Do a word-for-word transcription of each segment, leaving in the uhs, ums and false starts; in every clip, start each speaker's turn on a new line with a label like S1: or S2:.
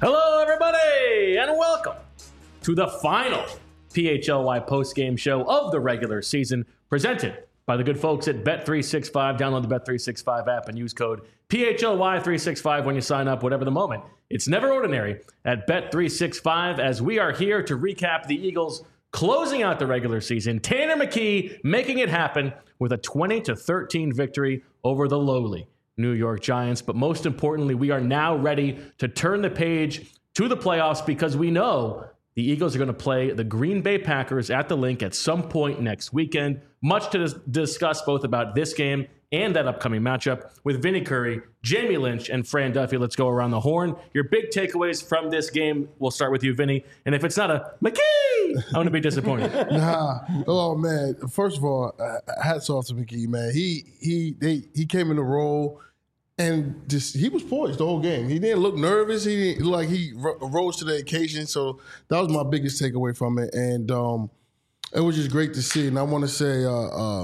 S1: Hello, everybody, and welcome to the final P H L Y postgame show of the regular season, presented by the good folks at Bet three sixty-five. Download the Bet three sixty-five app and use code P H L Y three sixty-five when you sign up, whatever the moment. It's never ordinary at Bet three sixty-five, as we are here to recap the Eagles closing out the regular season. Tanner McKee making it happen with a twenty to thirteen victory over the lowly New York Giants. But most importantly, we are now ready to turn the page to the playoffs, because we know the Eagles are going to play the Green Bay Packers at the Link at some point next weekend. Much to dis- discuss both about this game and that upcoming matchup with Vinny Curry, Jamie Lynch, and Fran Duffy. Let's go around the horn. Your big takeaways from this game. We'll start with you, Vinny. And if it's not a McKee, I'm going to be disappointed.
S2: Nah. Oh, man. First of all, uh, hats off to McKee, man. He he they, he came in the role and just he was poised the whole game. He didn't look nervous. He didn't look like he ro- rose to the occasion. So that was my biggest takeaway from it. And um, it was just great to see. And I want to say uh, uh,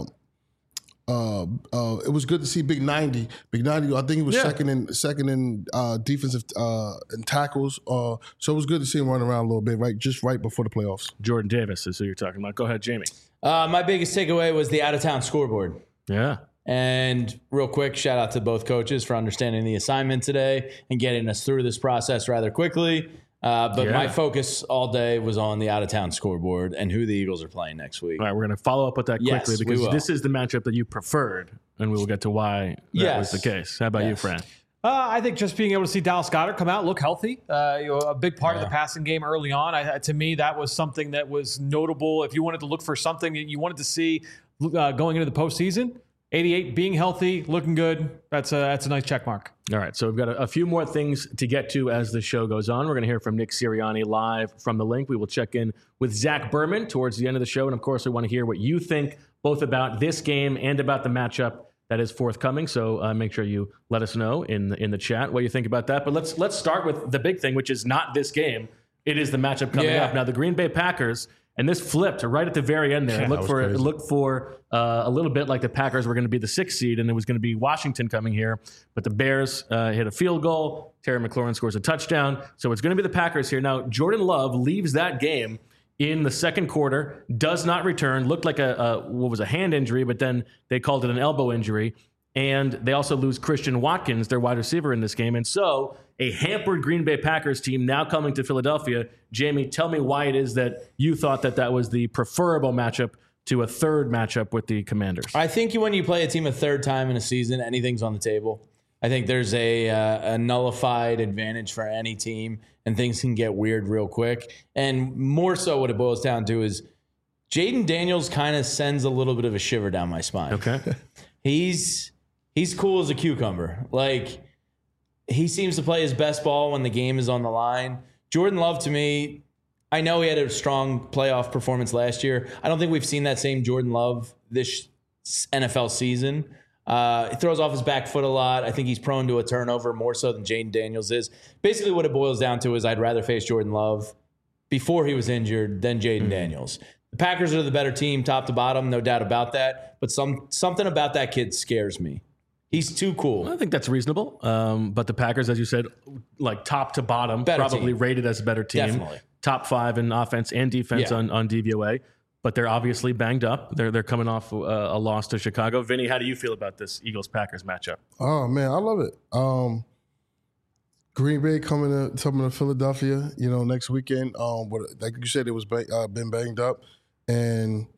S2: uh, uh, it was good to see Big ninety. Big ninety, I think he was yeah. second in second in uh, defensive uh, and tackles. Uh, so it was good to see him run around a little bit, right, just right before the playoffs.
S1: Jordan Davis is who you're talking about. Go ahead, Jamie.
S3: Uh, my biggest takeaway was the out-of-town scoreboard.
S1: Yeah.
S3: And real quick, shout out to both coaches for understanding the assignment today and getting us through this process rather quickly. Uh, but yeah. my focus all day was on the out-of-town scoreboard and who the Eagles are playing next week.
S1: All right, we're going to follow up with that quickly,
S3: yes,
S1: because this is the matchup that you preferred, and we will get to why that
S3: yes.
S1: was the case. How about yes. you, Fran?
S4: Uh, I think just being able to see Dallas Goedert come out, look healthy, uh, you know, a big part yeah. of the passing game early on. I, to me, that was something that was notable. If you wanted to look for something that you wanted to see uh, going into the postseason, eighty-eight being healthy, looking good. That's a that's a nice check mark.
S1: All right, so we've got a, a few more things to get to as the show goes on. We're going to hear from Nick Sirianni live from the Link. We will check in with Zach Berman towards the end of the show, and of course, we want to hear what you think both about this game and about the matchup that is forthcoming. So uh, make sure you let us know in the, in the chat what you think about that. But let's let's start with the big thing, which is not this game. It is the matchup coming
S3: yeah.
S1: up now. The Green Bay Packers. And this flipped right at the very end there.
S2: Yeah,
S1: it looked for
S2: crazy.
S1: it looked for uh, a little bit like the Packers were going to be the sixth seed, and it was going to be Washington coming here. But the Bears uh, hit a field goal. Terry McLaurin scores a touchdown. So it's going to be the Packers here. Now, Jordan Love leaves that game in the second quarter, does not return. Looked like a, a what was a hand injury, but then they called it an elbow injury. And they also lose Christian Watkins, their wide receiver, in this game. And so a hampered Green Bay Packers team now coming to Philadelphia. Jamie, tell me why it is that you thought that that was the preferable matchup to a third matchup with the Commanders.
S3: I think when you play a team a third time in a season, anything's on the table. I think there's a, uh, a nullified advantage for any team, and things can get weird real quick. And more so what it boils down to is Jaden Daniels kind of sends a little bit of a shiver down my spine.
S1: Okay.
S3: He's... He's cool as a cucumber. Like, he seems to play his best ball when the game is on the line. Jordan Love, to me, I know he had a strong playoff performance last year. I don't think we've seen that same Jordan Love this N F L season. Uh, he throws off his back foot a lot. I think he's prone to a turnover more so than Jaden Daniels is. Basically, what it boils down to is I'd rather face Jordan Love before he was injured than Jaden mm-hmm. Daniels. The Packers are the better team, top to bottom, no doubt about that. But some something about that kid scares me. He's too cool.
S1: I think that's reasonable. Um, but the Packers, as you said, like top to bottom,
S3: better
S1: probably
S3: team.
S1: rated as a better team.
S3: Definitely.
S1: Top five in offense and defense
S3: yeah.
S1: on, on D V O A. But they're obviously banged up. They're they're coming off uh, a loss to Chicago. Vinny, how do you feel about this Eagles-Packers matchup?
S2: Oh, man, I love it. Um, Green Bay coming to, coming to Philadelphia, you know, next weekend. Um, but like you said, it was ba- uh, been banged up. And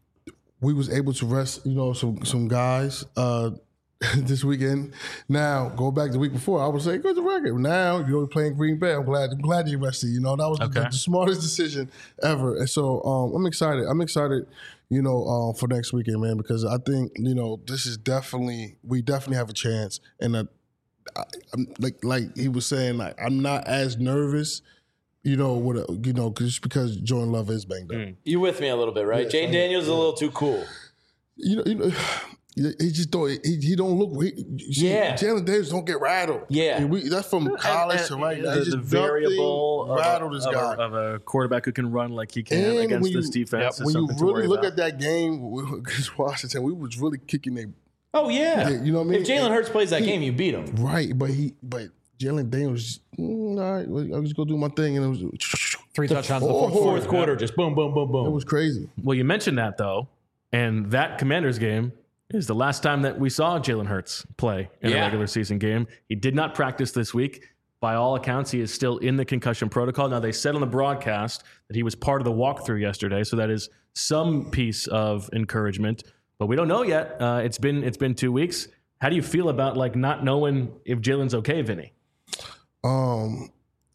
S2: we was able to rest, you know, some, some guys uh, – this weekend. Now, go back the week before, I would say, go to the record. Now, you're playing Green Bay. I'm glad I'm glad you rested. You know, that was okay. the, the smartest decision ever. And so um, I'm excited. I'm excited, you know, uh, for next weekend, man, because I think, you know, this is definitely, we definitely have a chance. And uh, I, I'm, like like he was saying, like I'm not as nervous, you know, with a, you know, just because Jordan Love is banged up.
S3: Mm. You with me a little bit, right? Yeah, Jaden Daniels is a little too cool.
S2: You know, you know. He just don't. He, he don't look. He,
S3: yeah,
S2: Jalen Davis don't get rattled.
S3: Yeah,
S2: and we, that's from college
S1: and,
S2: to right
S1: and
S2: now.
S1: The,
S2: just
S1: the variable
S2: rattled
S1: of,
S2: this
S1: a,
S2: guy
S1: of, a, of a quarterback who can run like he can
S2: and
S1: against
S2: you,
S1: this defense.
S2: Yep, when you really look about. at that game against Washington, we was really kicking their.
S3: Oh yeah,
S2: you know what I mean.
S3: If Jalen Hurts plays that
S2: he,
S3: game, you beat him.
S2: Right, but he but Jalen Daniels, mm, all right, I'll just go do my thing. And it was
S4: Three touchdowns in the
S2: fourth
S4: fourth,
S3: Fourth
S4: quarter.
S3: quarter, just boom, boom, boom, boom.
S2: It was crazy.
S1: Well, you mentioned that though, and that Commanders game is the last time that we saw Jalen Hurts play in
S3: Yeah.
S1: a regular season game. He did not practice this week. By all accounts, he is still in the concussion protocol. Now, they said on the broadcast that he was part of the walkthrough yesterday, so that is some piece of encouragement. But we don't know yet. Uh, it's been it's been two weeks. How do you feel about like not knowing if Jalen's okay, Vinny?
S2: Um,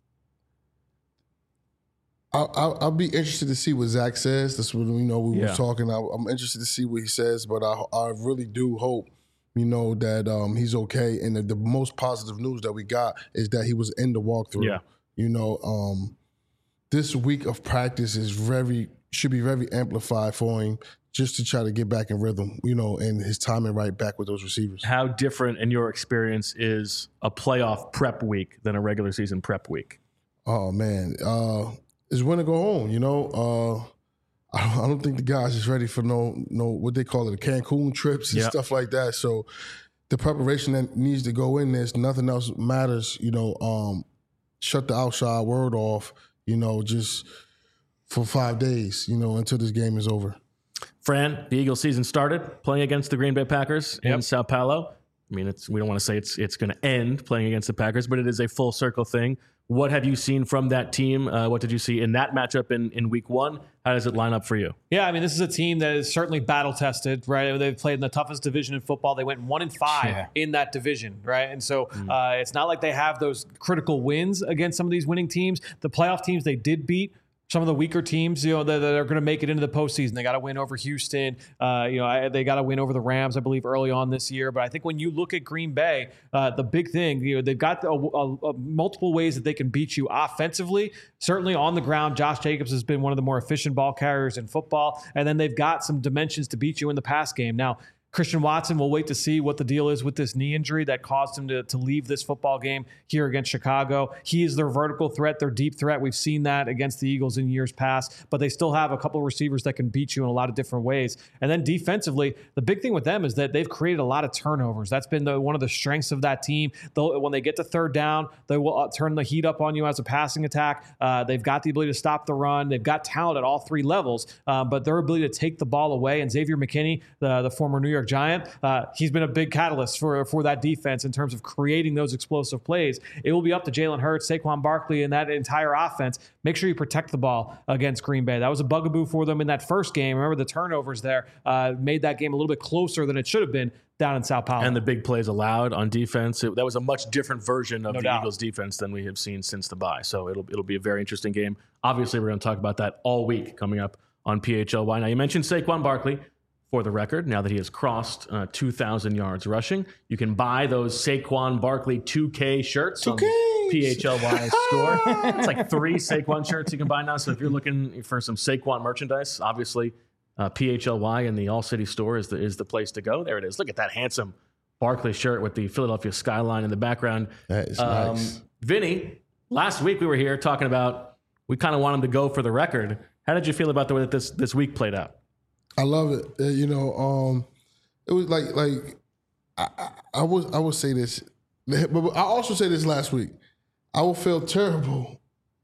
S2: I'll, I'll, I'll be interested to see what Zach says. That's what, you know, we
S1: Yeah.
S2: were talking. I, I'm interested to see what he says, but I, I really do hope, you know, that um, he's okay. And the, the most positive news that we got is that he was in the walkthrough.
S1: Yeah.
S2: You know, um, this week of practice is very should be very amplified for him just to try to get back in rhythm, you know, and his timing right back with those receivers.
S1: How different in your experience is a playoff prep week than a regular season prep week?
S2: Oh man, uh, it's when to go home. You know, uh, I, don't, I don't think the guys is ready for no no what they call it, the Cancun trips and
S1: Yeah.
S2: stuff like that. So the preparation that needs to go in this, nothing else matters. You know, um, shut the outside world off. You know, just for five days. You know, until this game is over.
S1: Fran, the Eagles season started playing against the Green Bay Packers in
S4: Yep.
S1: Sao Paulo. I mean, it's we don't want to say it's it's going to end playing against the Packers, but it is a full circle thing. What have you seen from that team? Uh, what did you see in that matchup in, in week one? How does it line up for you?
S4: Yeah, I mean, this is a team that is certainly battle tested, right? They've played in the toughest division in football. They went one and five
S3: Yeah.
S4: in that division, right? And so uh, it's not like they have those critical wins against some of these winning teams. The playoff teams they did beat. Some of the weaker teams, you know, that, that are going to make it into the postseason. They got to win over Houston. Uh, you know, I, they got to win over the Rams, I believe, early on this year. But I think when you look at Green Bay, uh, the big thing, you know, they've got a, a, a multiple ways that they can beat you offensively. Certainly on the ground, Josh Jacobs has been one of the more efficient ball carriers in football. And then they've got some dimensions to beat you in the pass game. Now, Christian Watson, we'll wait to see what the deal is with this knee injury that caused him to, to leave this football game here against Chicago. He is their vertical threat, their deep threat. We've seen that against the Eagles in years past, but they still have a couple of receivers that can beat you in a lot of different ways. And then defensively, the big thing with them is that they've created a lot of turnovers. That's been the, one of the strengths of that team. They'll, when they get to third down, they will uh, turn the heat up on you as a passing attack. Uh, they've got the ability to stop the run. They've got talent at all three levels, uh, but their ability to take the ball away. And Xavier McKinney, the, the former New York Giant, uh, he's been a big catalyst for, for that defense in terms of creating those explosive plays. It will be up to Jalen Hurts, Saquon Barkley, and that entire offense. Make sure you protect the ball against Green Bay. That was a bugaboo for them in that first game. Remember the turnovers there uh, made that game a little bit closer than it should have been down in Sao Paulo.
S1: And the big plays allowed on defense. It, that was a much different version of
S4: No
S1: the
S4: doubt.
S1: Eagles defense than we have seen since the bye. So it'll it'll be a very interesting game. Obviously, we're going to talk about that all week coming up on P H L Y. Now, you mentioned Saquon Barkley. For the record, now that he has crossed uh, two thousand yards rushing, you can buy those Saquon Barkley two K shirts on the P H L Y store. It's like three Saquon shirts you can buy now. So if you're looking for some Saquon merchandise, obviously uh, P H L Y and the All City store is the, is the place to go. There it is. Look at that handsome Barkley shirt with the Philadelphia skyline in the background.
S2: That is nice.
S1: Vinny, last week we were here talking about we kind of want him to go for the record. How did you feel about the way that this, this week played out?
S2: I love it. Uh, you know, um, it was like like I, I, I would I would say this, but I also say this last week. I would feel terrible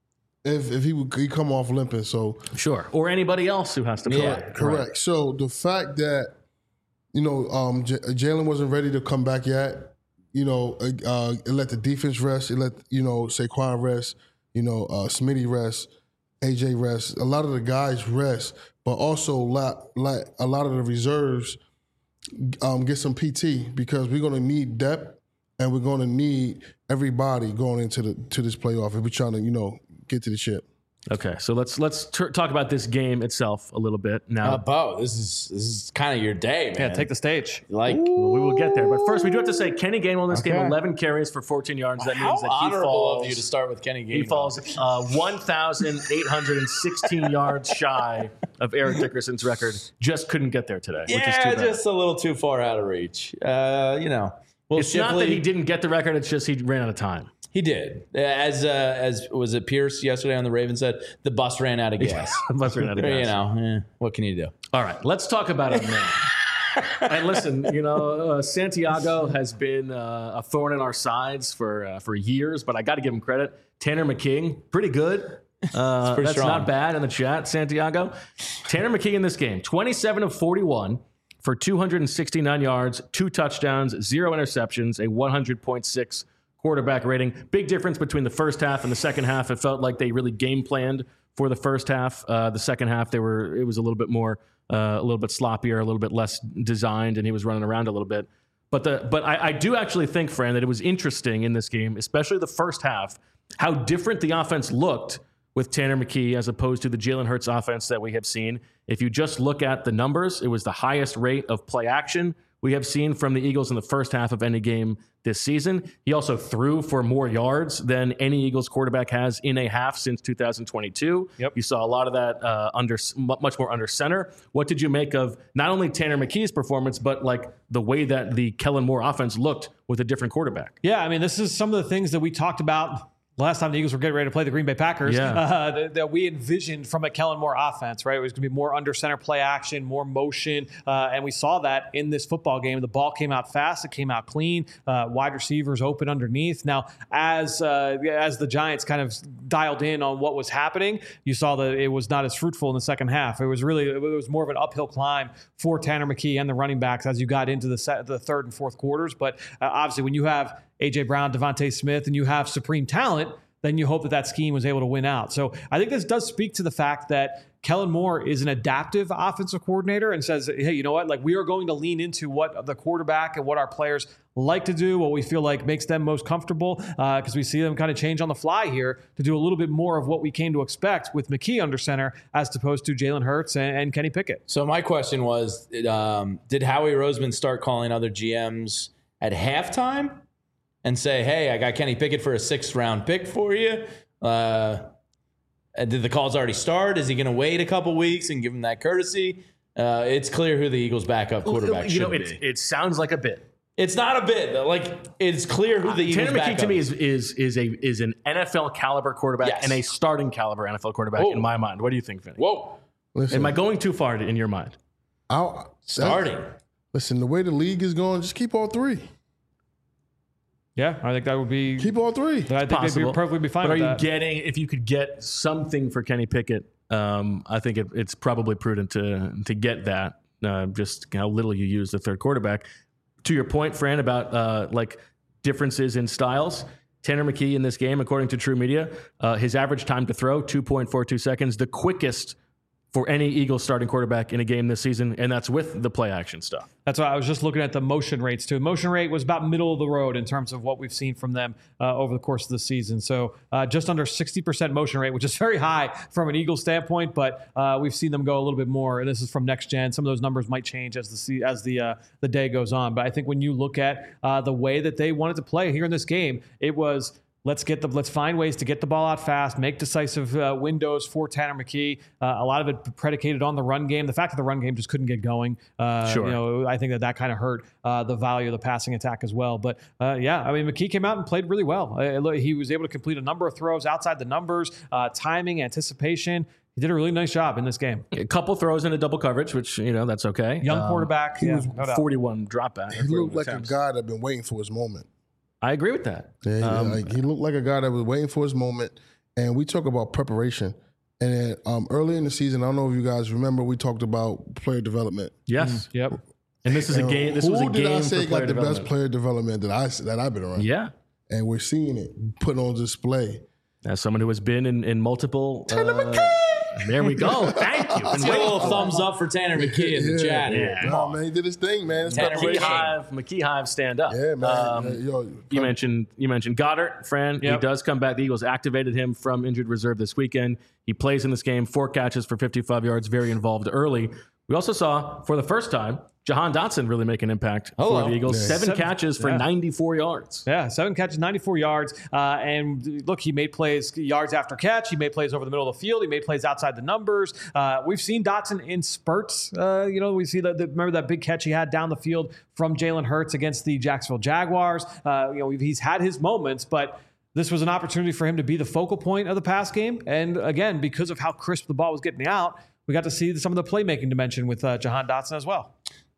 S2: if if he would he come off limping. So
S1: Sure. Or anybody else who has to play.
S3: Yeah,
S2: correct. So the fact that you know um, J- Jalen wasn't ready to come back yet. You know, uh, it let the defense rest. It let you know Saquon rest. You know, uh, Smitty rest. A J rest. A lot of the guys rest. But also let, let a lot of the reserves um, get some P T because we're going to need depth and we're going to need everybody going into the to this playoff if we're trying to, you know, get to the ship.
S1: Okay, so let's let's t- talk about this game itself a little bit now.
S3: Uh, Bo, this is this is kind of your day, man.
S4: yeah, take the stage.
S3: like.
S1: Well, we will get there, but first we do have to say Kenny Gainwell in this game,
S3: Okay.
S1: eleven carries for fourteen yards. That
S3: How
S1: means that he
S3: honorable
S1: falls.
S3: of you to start with Kenny Gainwell.
S1: He falls uh, one thousand eight hundred sixteen yards shy of Eric Dickerson's record. Just couldn't get there today, which is too
S3: Yeah,
S1: bad.
S3: just a little too far out of reach. Uh, you know, well,
S1: It's not that he didn't get the record; it's just he ran out of time.
S3: He did. As uh, as was it Pierce yesterday on the Ravens said, the bus ran out of gas.
S1: Must ran out of
S3: You
S1: gas.
S3: know, eh, what can you do?
S1: All right, let's talk about it now. And listen, you know, uh, Santiago has been uh, a thorn in our sides for uh, for years, but I got to give him credit. Tanner McKee, pretty good. Uh,
S3: pretty
S1: that's
S3: strong.
S1: not bad in the chat, Santiago. Tanner McKee in this game, twenty-seven of forty-one for two hundred sixty-nine yards, two touchdowns, zero interceptions, a one hundred point six quarterback rating. Big difference between the first half and the second half. It felt like they really game planned for the first half. Uh, the second half, they were it was a little bit more, uh, a little bit sloppier, a little bit less designed, and he was running around a little bit. But the but I, I do actually think, Fran, that it was interesting in this game, especially the first half, how different the offense looked with Tanner McKee as opposed to the Jalen Hurts offense that we have seen. If you just look at the numbers, it was the highest rate of play action we have seen from the Eagles in the first half of any game this season. He also threw for more yards than any Eagles quarterback has in a half since two thousand twenty-two. Yep. You saw a lot of that uh, under much more under center. What did you make of not only Tanner McKee's performance, but like the way that the Kellen Moore offense looked with a different quarterback?
S4: Yeah, I mean, this is some of the things that we talked about last time the Eagles were getting ready to play the Green Bay Packers,
S1: yeah.
S4: uh, that, that we envisioned from a Kellen Moore offense, right? It was going to be more under center play action, more motion, uh, and we saw that in this football game. The ball came out fast, it came out clean, uh, wide receivers open underneath. Now, as uh, as the Giants kind of dialed in on what was happening, you saw that it was not as fruitful in the second half. It was really, it was more of an uphill climb for Tanner McKee and the running backs as you got into the set, the third and fourth quarters. But uh, obviously, when you have A J Brown, Devontae Smith, and you have supreme talent, then you hope that that scheme was able to win out. So I think this does speak to the fact that Kellen Moore is an adaptive offensive coordinator and says, hey, you know what? Like, we are going to lean into what the quarterback and what our players like to do, what we feel like makes them most comfortable, because uh, we see them kind of change on the fly here to do a little bit more of what we came to expect with McKee under center as opposed to Jalen Hurts and, and Kenny Pickett.
S3: So my question was, um, did Howie Roseman start calling other G Ms at halftime and say, hey, I got Kenny Pickett for a sixth round pick for you? Uh, did the calls already start? Is he going to wait a couple weeks and give him that courtesy? Uh, it's clear who the Eagles' backup quarterback
S1: you
S3: should
S1: know,
S3: be.
S1: it, it sounds like a bit.
S3: It's not a bit. Like, it's clear who the Eagles'
S1: Tanner McKee
S3: backup
S1: to me is is is a is an N F L caliber quarterback
S3: Yes.
S1: and a starting caliber N F L quarterback
S3: Whoa.
S1: in my mind. What do you think, Vinny?
S3: Whoa.
S2: Listen,
S1: Am I going too far in your mind?
S2: I'll,
S3: Starting.
S2: Listen, the way the league is going, just keep all three.
S4: Yeah, I think that would be.
S2: Keep all three.
S4: I think they'd
S1: Possible.
S4: be perfectly be fine
S1: But are
S4: with
S1: you
S4: that.
S1: getting, if you could get something for Kenny Pickett, um, I think it, it's probably prudent to to get that, uh, just how little you use the third quarterback. To your point, Fran, about uh, like differences in styles, Tanner McKee in this game, according to True Media, uh, his average time to throw, two point four two seconds, the quickest for any Eagles starting quarterback in a game this season, and that's with the play action stuff.
S4: That's why I was just looking at the motion rates too. Motion rate was about middle of the road in terms of what we've seen from them uh, over the course of the season. So uh, just under sixty percent motion rate, which is very high from an Eagles standpoint, but uh, we've seen them go a little bit more. And this is from Next Gen. Some of those numbers might change as the se- as the uh, the day goes on. But I think when you look at uh, the way that they wanted to play here in this game, it was, Let's get the. Let's find ways to get the ball out fast, make decisive uh, windows for Tanner McKee. Uh, a lot of it predicated on the run game. The fact that the run game just couldn't get going, uh,
S1: Sure.
S4: you know, I think that that kind of hurt uh, the value of the passing attack as well. But uh, yeah, I mean, McKee came out and played really well. Uh, he was able to complete a number of throws outside the numbers, uh, timing, anticipation. He did a really nice job in this game.
S1: A couple throws into double coverage, which, you know, that's okay.
S4: Young
S1: Um,
S4: quarterback.
S2: he
S4: yeah,
S2: was
S4: no doubt.
S1: forty-one dropback.
S2: He looked like a guy that been waiting for his moment.
S1: I agree with that.
S2: Yeah, he,
S1: Um,
S2: like, he looked like a guy that was waiting for his moment. And we talk about preparation. And then um, early in the season, I don't know if you guys remember, we talked about player development.
S1: Yes.
S4: Yep.
S1: And this is a
S2: And
S1: game. This
S2: who
S1: was a
S2: did
S1: game
S2: I say
S1: for player
S2: got the
S1: development.
S2: best player development that I that I've been around?
S1: Yeah.
S2: And we're seeing it put on display.
S1: As someone who has been in, in multiple. Uh, there we go. Thank you.
S3: Let's get a little thumbs up for Tanner McKee in the chat.
S1: Yeah.
S3: Come
S2: No,
S3: on.
S2: man, he did his thing, man. It's
S3: Tanner
S1: McKee
S3: McKee.
S1: Hive, McKee Hive, stand up.
S2: Yeah, man.
S1: Um,
S2: Yo,
S1: You mentioned you mentioned Goddard, Fran. He
S4: Yep.
S1: does come back. The Eagles activated him from injured reserve this weekend. He plays in this game, four catches for fifty-five yards, very involved early. We also saw, for the first time, Jahan Dotson really make an impact
S3: Hello.
S1: for the Eagles.
S2: Yeah.
S1: Seven,
S4: Seven-
S1: catches for
S4: yeah.
S1: ninety-four yards.
S4: Yeah, seven catches, ninety-four yards. Uh, and look, he made plays yards after catch. He made plays over the middle of the field. He made plays outside the numbers. Uh, we've seen Dotson in spurts. Uh, you know, we see that. Remember that big catch he had down the field from Jalen Hurts against the Jacksonville Jaguars. Uh, you know, he's had his moments, but this was an opportunity for him to be the focal point of the pass game. And again, because of how crisp the ball was getting out, we got to see some of the playmaking dimension with uh, Jahan Dotson as well.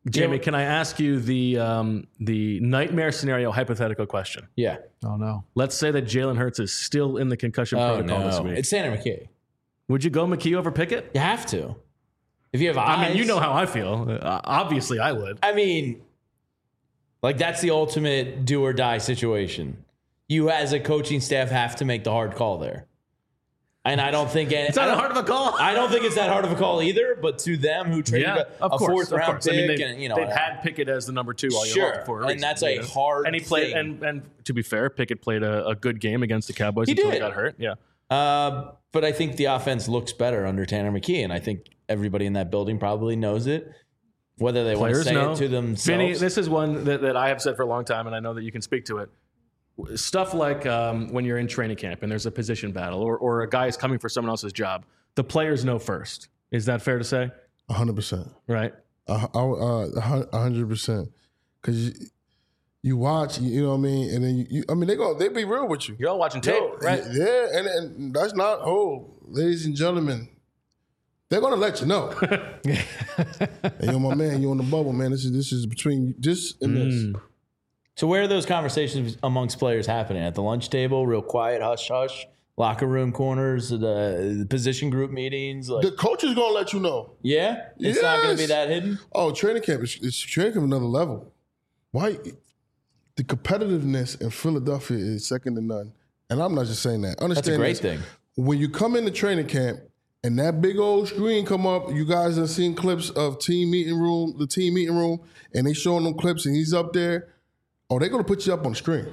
S1: Jamie,
S3: Yeah.
S1: can I ask you the um, the nightmare scenario hypothetical question?
S3: Yeah.
S4: Oh no.
S1: Let's say that Jalen Hurts is still in the concussion
S3: Oh,
S1: protocol this
S3: no.
S1: week.
S3: It's Tanner McKee.
S1: Would you go McKee over Pickett?
S3: You have to. If you have eyes.
S1: I mean, you know how I feel. Uh, obviously, I would.
S3: I mean, like that's the ultimate do or die situation. You as a coaching staff have to make the hard call there. And I don't think
S1: It's not that hard of a call.
S3: I don't think it's that hard of a call either. But to them who traded
S1: Yeah,
S3: a,
S1: of
S3: a
S1: course,
S3: fourth
S1: of
S3: round
S1: course.
S3: pick,
S1: I mean, they,
S3: and you know,
S1: they've had Pickett as the number two all year
S3: Sure,
S1: long for a
S3: and
S1: reason,
S3: that's a
S1: you know?
S3: hard
S1: And he played,
S3: thing.
S1: and and to be fair, Pickett played a, a good game against the Cowboys
S3: He
S1: until he
S3: did.
S1: got hurt. Yeah,
S3: Uh, but I think the offense looks better under Tanner McKee, and I think everybody in that building probably knows it. Whether they want to
S1: players
S3: say
S1: know.
S3: it to themselves,
S1: Vinny, this is one that, that I have said for a long time, and I know that you can speak to it. Stuff like um, when you're in training camp and there's a position battle, or or a guy is coming for someone else's job. The players know first. Is that fair to say?
S2: A hundred percent.
S1: Right.
S2: A uh, a hundred percent. Because you, you watch, you know what I mean, and then you, you I mean, they go, they be real with you.
S1: You're all watching tape,
S2: Yo,
S1: right?
S2: Yeah, and, and that's not, oh, ladies and gentlemen, they're gonna let you know. Hey, yo, my man, you on the bubble, man. This is this is between this and
S1: Mm.
S2: this.
S3: So where are those conversations amongst players happening? At the lunch table, real quiet, hush hush, locker room corners, the, the position group meetings. Like,
S2: The coach is gonna let you know.
S3: yeah, it's not going to be
S2: Yes.
S3: that hidden.
S2: Oh, training camp is it's training camp another level. Why? The competitiveness in Philadelphia is second to none. And I'm not just saying that. Understand
S3: That's a great
S2: this.
S3: thing.
S2: When you come into training camp and that big old screen come up, you guys have seen clips of team meeting room, the team meeting room, and they showing them clips and he's up there. Oh, they're gonna put you up on the screen.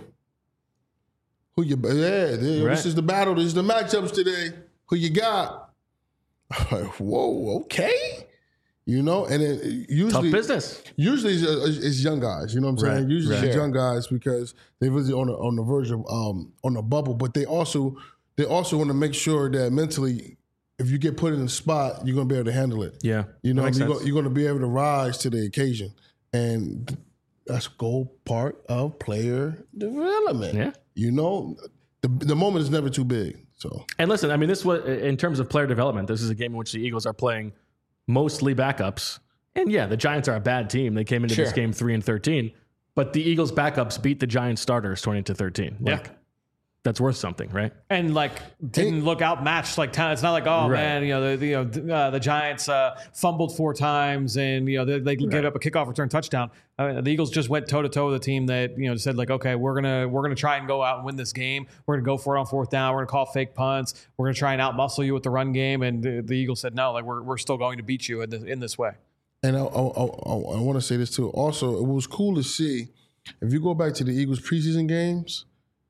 S2: Who you? Yeah, they-
S1: Right.
S2: this is the battle. This is the matchups today. Who you got? I'm like, whoa, okay. You know, and then
S1: Tough
S2: usually,
S1: business.
S2: usually it's, it's- it's young guys. You know what I'm saying?
S1: Right,
S2: Usually
S1: right.
S2: it's young guys because they visit on the on the verge of um on the bubble, but they also they also want to make sure that mentally, if you get put in a spot, you're gonna be able to handle it.
S1: Yeah.
S2: You know,
S1: That makes
S2: you're,
S1: sense.
S2: go, you're going to be able to rise to the occasion. And that's goal part of player development.
S1: Yeah.
S2: You know, the, the moment is never too big. So,
S1: And listen, I mean, this was in terms of player development. This is a game in which the Eagles are playing mostly backups. And yeah, the Giants are a bad team. They came into this
S3: Sure.
S1: game three and thirteen, but the Eagles backups beat the Giants starters twenty to thirteen. Like,
S4: Yeah.
S1: that's worth something, right?
S4: And like didn't look outmatched like talent. It's not like oh
S1: Right.
S4: man, you know the, the you know th- uh, the Giants uh, fumbled four times and you know they, they gave up a kickoff return touchdown. I mean, the Eagles just went toe to toe with a team that you know said like okay we're gonna we're gonna try and go out and win this game. We're gonna go for it on fourth down. We're gonna call fake punts. We're gonna try and outmuscle you with the run game. And the, the Eagles said no, like we're we're still going to beat you in this in this way.
S2: and I, I, I, I want to say this too. Also, it was cool to see, if you go back to the Eagles preseason games,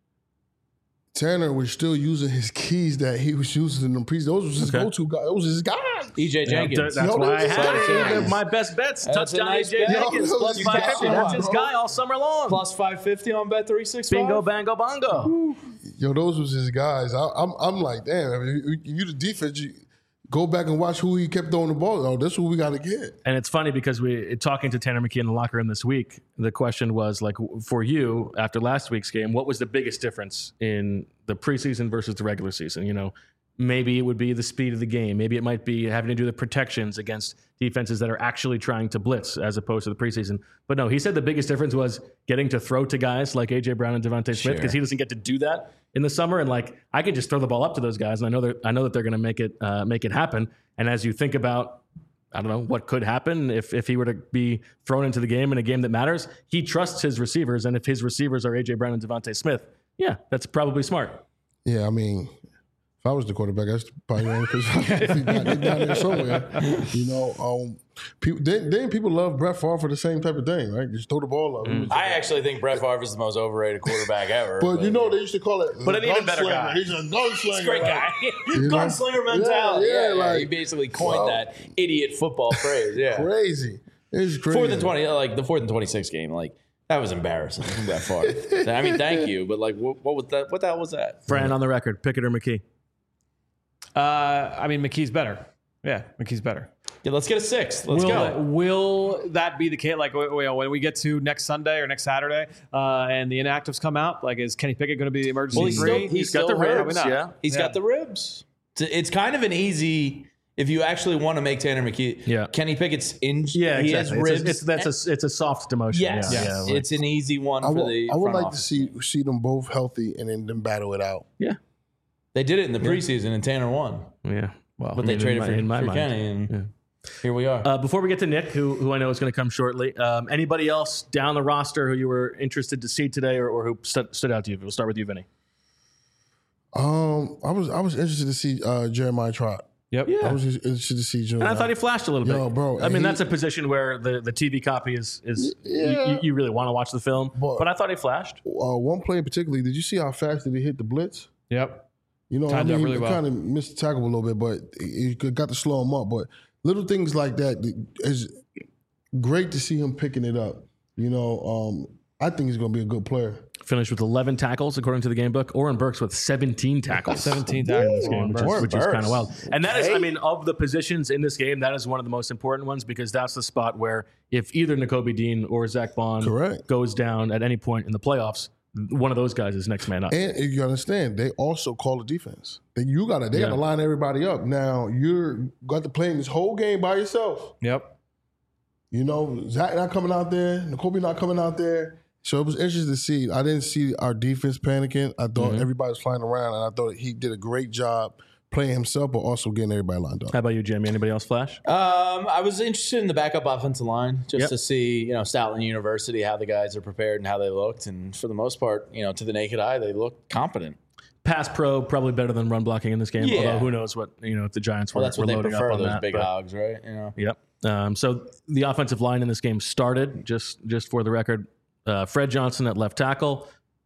S2: Tanner was still using his keys that he was using in the preseason. Those was his
S1: Okay.
S2: go-to guys. Those was his guys.
S3: E J Jenkins.
S1: That's
S2: Yo,
S1: why I
S2: that's
S1: had
S2: nice.
S1: it. My best bets.
S3: That's a
S1: Touchdown
S3: nice
S1: A J
S3: bet.
S1: Jenkins.
S2: Yo,
S1: Plus
S2: you
S1: five
S2: got
S1: fifty.
S2: it,
S1: That's his
S2: bro.
S1: guy all summer long.
S3: Plus five fifty on Bet three sixty-five.
S1: Bingo, bango, bongo.
S2: Yo, those was his guys. I, I'm, I'm like, damn. I mean, you, you the defense. You go back and watch who he kept throwing the ball. Oh, that's what we got to get.
S1: And it's funny because we talking to Tanner McKee in the locker room this week. The question was like, for you after last week's game, what was the biggest difference in the preseason versus the regular season? You know, maybe it would be the speed of the game. Maybe it might be having to do the protections against defenses that are actually trying to blitz as opposed to the preseason. But no, he said the biggest difference was getting to throw to guys like A J Brown and Devontae Smith because
S3: Sure.
S1: he doesn't get to do that in the summer. And like, I can just throw the ball up to those guys, and I know that I know that they're going to make it uh, make it happen. And as you think about, I don't know what could happen if if he were to be thrown into the game in a game that matters, he trusts his receivers, and if his receivers are A J Brown and Devontae Smith, yeah, that's probably smart.
S2: Yeah, I mean, if I was the quarterback, that's probably the only person I'd be down, down there somewhere. You know, um, people, then, then people love Brett Favre for the same type of thing, right? Just throw the ball up.
S1: Mm.
S3: I actually think Brett Favre is the most overrated quarterback ever.
S2: But you know, they used to call it.
S1: But an even better
S2: gunslinger.
S1: guy.
S2: He's a gunslinger.
S3: great
S2: right?
S3: guy.
S2: You know?
S3: Gunslinger mentality.
S2: Yeah, yeah,
S3: Yeah,
S2: like-
S3: he basically coined
S2: Wow.
S3: that idiot football phrase. Yeah.
S2: Crazy. It's crazy.
S3: Fourth and twenty, like the fourth and twenty-six game, like that was embarrassing from that far. I mean, thank you, but like, what, what was that? What the hell was that?
S1: Fran, on the record, Pickett or McKee?
S4: Uh, I mean McKee's better. Yeah, McKee's better.
S3: Yeah, let's get a six. Let's
S4: will,
S3: go.
S4: will that be the case? Like w- w- when we get to next Sunday or next Saturday, uh, and the inactives come out, like is Kenny Pickett going to be the emergency
S3: Well, he's
S4: three?
S3: still, he's
S1: He's got
S3: still
S1: the
S3: hurt.
S1: ribs,
S4: not.
S1: yeah.
S3: He's
S4: Yeah.
S3: got the ribs. It's, it's kind of an easy. If you actually want to make Tanner McKee,
S1: Yeah.
S3: Kenny Pickett's in.
S1: Yeah,
S3: he
S1: exactly.
S3: has ribs.
S1: It's, a, it's that's a it's a soft demotion.
S3: yes,
S1: Yeah, yeah, like-
S3: it's an easy one
S2: I
S3: for
S2: would,
S3: the.
S2: I would
S3: front
S2: like
S3: office.
S2: to see see them both healthy and then them battle it out.
S1: yeah,
S3: They did it in the preseason, and Tanner won,
S1: yeah. Well,
S3: but
S1: I
S3: they
S1: mean,
S3: traded
S1: in my,
S3: for,
S1: in my
S3: for
S1: mind.
S3: Kenny, and
S1: Yeah.
S3: here we are.
S1: Uh, before we get to Nick, who who I know is going to come shortly, um, anybody else down the roster who you were interested to see today, or, or who stood, stood out to you? We'll start with you, Vinny.
S2: Um, I was I was interested to see uh, Jeremiah Trott.
S4: Yep.
S2: I was just interested to see Jeremiah.
S1: And I thought he flashed a little
S2: Yo,
S1: bit,
S2: bro,
S1: I
S2: and
S1: mean,
S2: he-
S1: that's a position where the, the T V copy is is
S2: Yeah.
S1: you, you really want to watch the film,
S2: But-
S1: but I thought he flashed.
S2: uh, one play particularly. Did you see how fast did he hit the blitz?
S4: Yep.
S2: You know,
S4: Timed
S2: I
S4: up
S2: mean,
S4: really
S2: he
S4: well.
S2: kind of missed the tackle a little bit, but he he got to slow him up. But little things like that is great to see him picking it up. You know, um, I think he's going to be a good player.
S1: Finished with eleven tackles according to the game book. Oren Burks with seventeen tackles.
S4: seventeen
S1: in
S4: tackles
S1: this game, which is,
S3: Oren
S1: which is kind
S3: Burks.
S1: of wild. And that is, I
S3: Okay.
S1: mean, of the positions in this game, that is one of the most important ones because that's the spot where if either Nakobe Dean or Zach Bond
S2: Correct.
S1: goes down at any point in the playoffs, one of those guys is next man up.
S2: And you understand, they also call the defense. They, you gotta, they
S1: Yeah.
S2: gotta line everybody up. Now you're got to play in this whole game by yourself.
S4: Yep.
S2: You know, Zach not coming out there, Nakobe not coming out there. So it was interesting to see. I didn't see our defense panicking. I thought
S1: Mm-hmm.
S2: everybody was flying around, and I thought he did a great job playing himself, but also getting everybody lined up.
S1: How about you, Jimmy? Anybody else flash?
S3: Um, I was interested in the backup offensive line just
S1: Yep.
S3: to see, you know, Stoutland University, how the guys are prepared and how they looked. And for the most part, you know, to the naked eye, they looked competent.
S1: Pass pro, probably better than run blocking in this game.
S3: Yeah.
S1: Although who knows what, you know, if the Giants were,
S3: Well, that's
S1: were
S3: what they
S1: loading
S3: prefer,
S1: up on
S3: those
S1: that.
S3: big
S1: but-
S3: hogs, right? You know.
S1: Yep. Um, so the offensive line in this game started, just just for the record, uh, Fred Johnson at left tackle,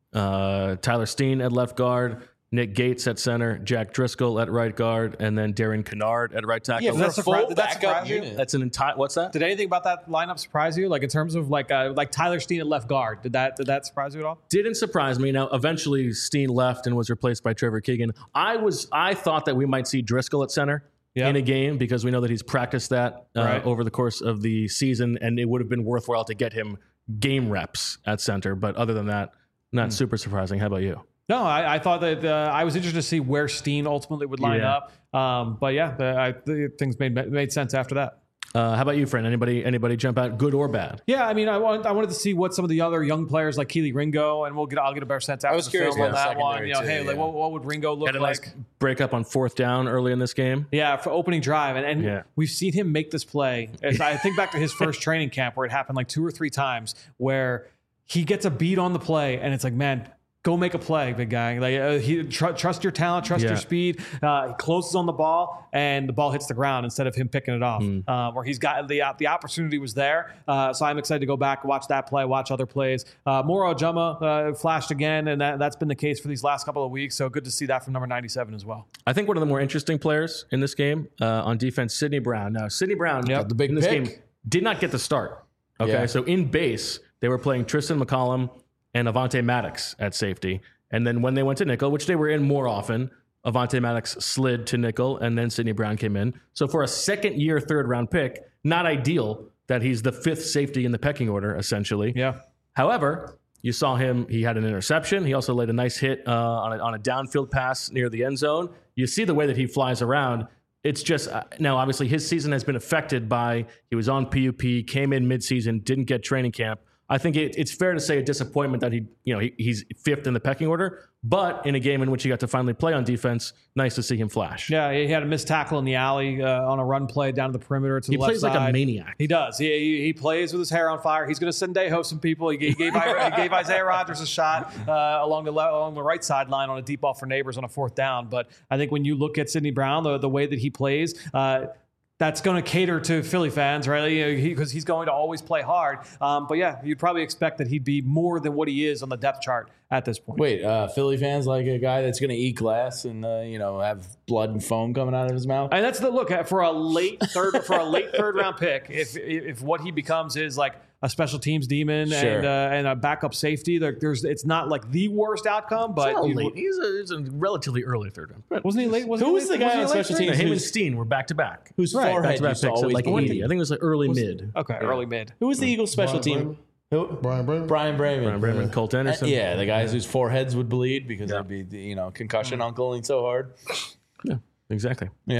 S1: uh, Tyler Steen at left guard, Nick Gates at center, Jack Driscoll at right guard, and then Darren Kennard at right tackle.
S3: Yeah, for
S4: that
S3: a
S4: surpri-
S3: full
S4: did that
S3: backup
S4: surprise you?
S3: unit.
S1: That's an entire. What's that?
S4: Did anything about that lineup surprise you? Like in terms of like uh, like Tyler Steen at left guard, did that did that surprise you at all?
S1: Didn't surprise me. Now, eventually, Steen left and was replaced by Trevor Keegan. I was I thought that we might see Driscoll at center.
S4: Yeah.
S1: In a game because we know that he's practiced that uh,
S4: Right.
S1: over the course of the season, and it would have been worthwhile to get him game reps at center. But other than that, not super surprising. How about you?
S4: No, I, I thought that uh, I was interested to see where Steen ultimately would line
S1: Yeah.
S4: up. Um, but yeah, the, I, the things made made sense after that.
S1: Uh, how about you, friend? Anybody anybody jump out, good or bad?
S4: Yeah, I mean, I want I wanted to see what some of the other young players like Keely Ringo, and we'll get I'll get a better sense after
S3: was
S4: the
S3: curious
S4: film on
S3: about
S4: that one.
S3: secondary
S4: You know,
S3: too,
S4: hey, like
S3: yeah.
S4: what, what would Ringo look
S1: Had a
S4: like?
S1: nice break up on fourth down early in this game.
S4: Yeah, for opening drive, and, and
S1: Yeah.
S4: we've seen him make this play. As I think back to his first training camp where it happened like two or three times, where he gets a beat on the play, and it's like, man, go make a play, big guy. Like uh, he tr- trust your talent, trust
S1: Yeah.
S4: your speed. Uh, he closes on the ball, and the ball hits the ground instead of him picking it off.
S1: Hmm.
S4: Uh, where he's got the the opportunity was there. Uh, so I'm excited to go back, watch that play, watch other plays. Uh, Moro Ojama uh, flashed again, and that, that's been the case for these last couple of weeks. So good to see that from number ninety-seven as well.
S1: I think one of the more interesting players in this game uh, on defense, Sidney Brown. Now, Sidney Brown
S4: Yep.
S3: The big
S1: in this
S3: pick.
S1: game did not get the start. Okay,
S3: Yeah.
S1: so in base they were playing Tristan McCollum and Avante Maddox at safety, and then when they went to nickel, which they were in more often, Avante Maddox slid to nickel, and then Sidney Brown came in. So for a second year, third round pick, not ideal that he's the fifth safety in the pecking order, essentially.
S4: Yeah.
S1: However, you saw him, he had an interception. He also laid a nice hit uh, on, a, on a downfield pass near the end zone. You see the way that he flies around. It's just, uh, now obviously his season has been affected by, he was on P U P, came in midseason, didn't get training camp. I think it, it's fair to say a disappointment that he, you know, he, he's fifth in the pecking order, but in a game in which he got to finally play on defense, nice to see him flash.
S4: Yeah, he had a missed tackle in the alley uh, on a run play down to the perimeter to
S1: He
S4: the left
S1: plays like
S4: side.
S1: a maniac.
S4: He does. He, he, he plays with his hair on fire. He's going to Sendejo some people. He gave, he gave, he gave Isaiah Rodgers a shot uh, along the le- along the right sideline on a deep ball for Neighbors on a fourth down. But I think when you look at Sidney Brown, the, the way that he plays, uh, that's going to cater to Philly fans, right? Because he, 'cause he's going to always play hard. Um, but yeah, you'd probably expect that he'd be more than what he is on the depth chart at this point.
S3: Wait, uh, Philly fans like a guy that's going to eat glass and uh, you know have blood and foam coming out of his mouth.
S4: And that's the look at for a late third for a late third round pick. If if what he becomes is like a special teams demon
S3: Sure.
S4: and uh, and a backup safety, there, there's it's not like the worst outcome, but
S1: He's, a
S4: you-
S1: late. He's, a, he's a relatively early third round. But
S4: wasn't he late? Wasn't
S3: Who
S4: he
S3: was
S4: late-
S3: the guy
S4: wasn't
S3: on
S4: he late
S3: special
S4: third?
S3: teams?
S1: him and
S3: who's-
S1: Steen were back to back.
S3: Whose
S4: Right,
S3: forehead
S1: Back to back
S3: used to
S1: picks at
S3: always
S1: like
S3: bleed.
S1: eighty. I think it was like early mid.
S4: Okay, early mid.
S3: Who was the Eagles special
S2: Brian
S3: team? Who?
S2: Brian Brennan?
S3: Brian Brayman.
S1: Brian Brayman, Colt Anderson.
S3: Uh, yeah, the guys whose foreheads would bleed because they'd be, you know, concussion uncling so hard.
S1: Yeah, exactly.
S3: Yeah.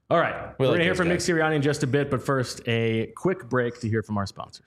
S1: All right.
S3: We
S1: We're
S3: like
S1: going to hear
S3: those
S1: from
S3: guys.
S1: Nick Sirianni in just a bit, but first, a quick break to hear from our sponsors.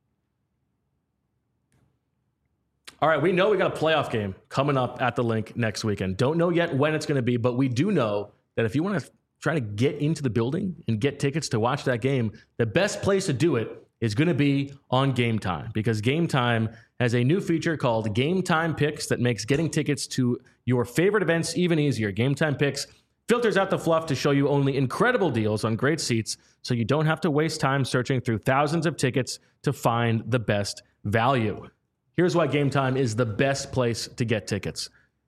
S1: All right, we know we got a playoff game coming up at the Link next weekend. Don't know yet when it's going to be, but we do know that if you want to try to get into the building and get tickets to watch that game, the best place to do it is going to be on Game Time, because Game Time has a new feature called Game Time Picks that makes getting tickets to your favorite events even easier. Game Time Picks filters out the fluff to show you only incredible deals on great seats, so you don't have to waste time searching through thousands of tickets to find the best value. Here's why Game Time is the best place to get tickets.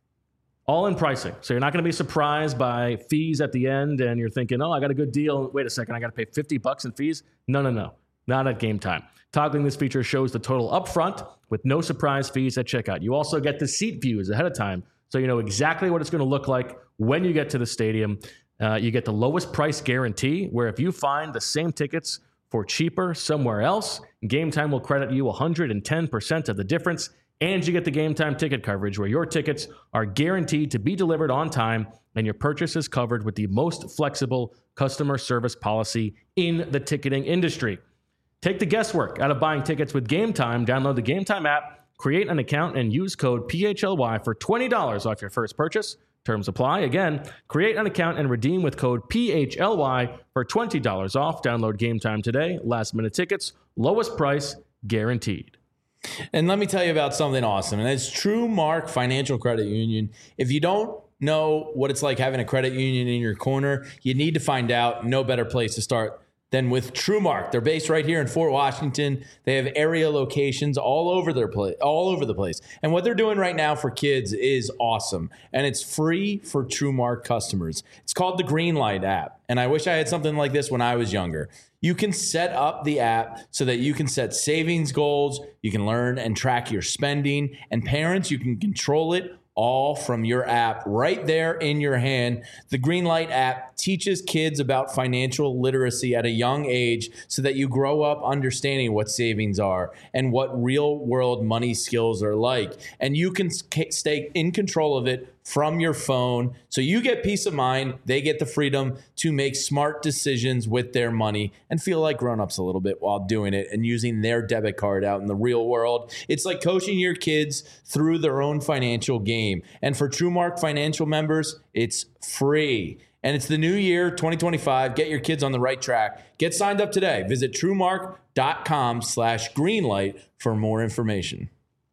S1: All in pricing. So you're not going to be surprised by fees at the end and you're thinking, oh, I got a good deal. Wait a second, I got to pay fifty bucks in fees? No, no, no. Not at Game Time. Toggling this feature shows the total upfront with no surprise fees at checkout. You also get the seat views ahead of time, so you know exactly what it's going to look like when you get to the stadium. Uh, you get the lowest price guarantee, where if you find the same tickets for cheaper somewhere else, Game Time will credit you one hundred ten percent of the difference, and you get the Game Time ticket coverage, where your tickets are guaranteed to be delivered on time and your purchase is covered with the most flexible customer service policy in the ticketing industry. Take the guesswork out of buying tickets with Game Time. Download the Game Time app, create an account, and use code P H L Y for twenty dollars off your first purchase. Terms apply. Again, create an account and redeem with code P H L Y for twenty dollars off. Download Game Time today. Last minute tickets, lowest price guaranteed.
S3: And let me tell you about something awesome, and it's True Mark Financial Credit Union. If you don't know what it's like having a credit union in your corner, you need to find out. No better place to start than with TrueMark. They're based right here in Fort Washington. They have area locations all over their place, all over the place. And what they're doing right now for kids is awesome. And it's free for TrueMark customers. It's called the Greenlight app. And I wish I had something like this when I was younger. You can set up the app so that you can set savings goals, you can learn and track your spending, and parents, you can control it all from your app right there in your hand. The Greenlight app teaches kids about financial literacy at a young age so that you grow up understanding what savings are and what real world money skills are like. And you can stay in control of it from your phone. So you get peace of mind. They get the freedom to make smart decisions with their money and feel like grown-ups a little bit while doing it and using their debit card out in the real world. It's like coaching your kids through their own financial game. And for TrueMark Financial members, it's free. And it's the new year, twenty twenty-five. Get your kids on the right track. Get signed up today. Visit TrueMark.com slash Greenlight for more information.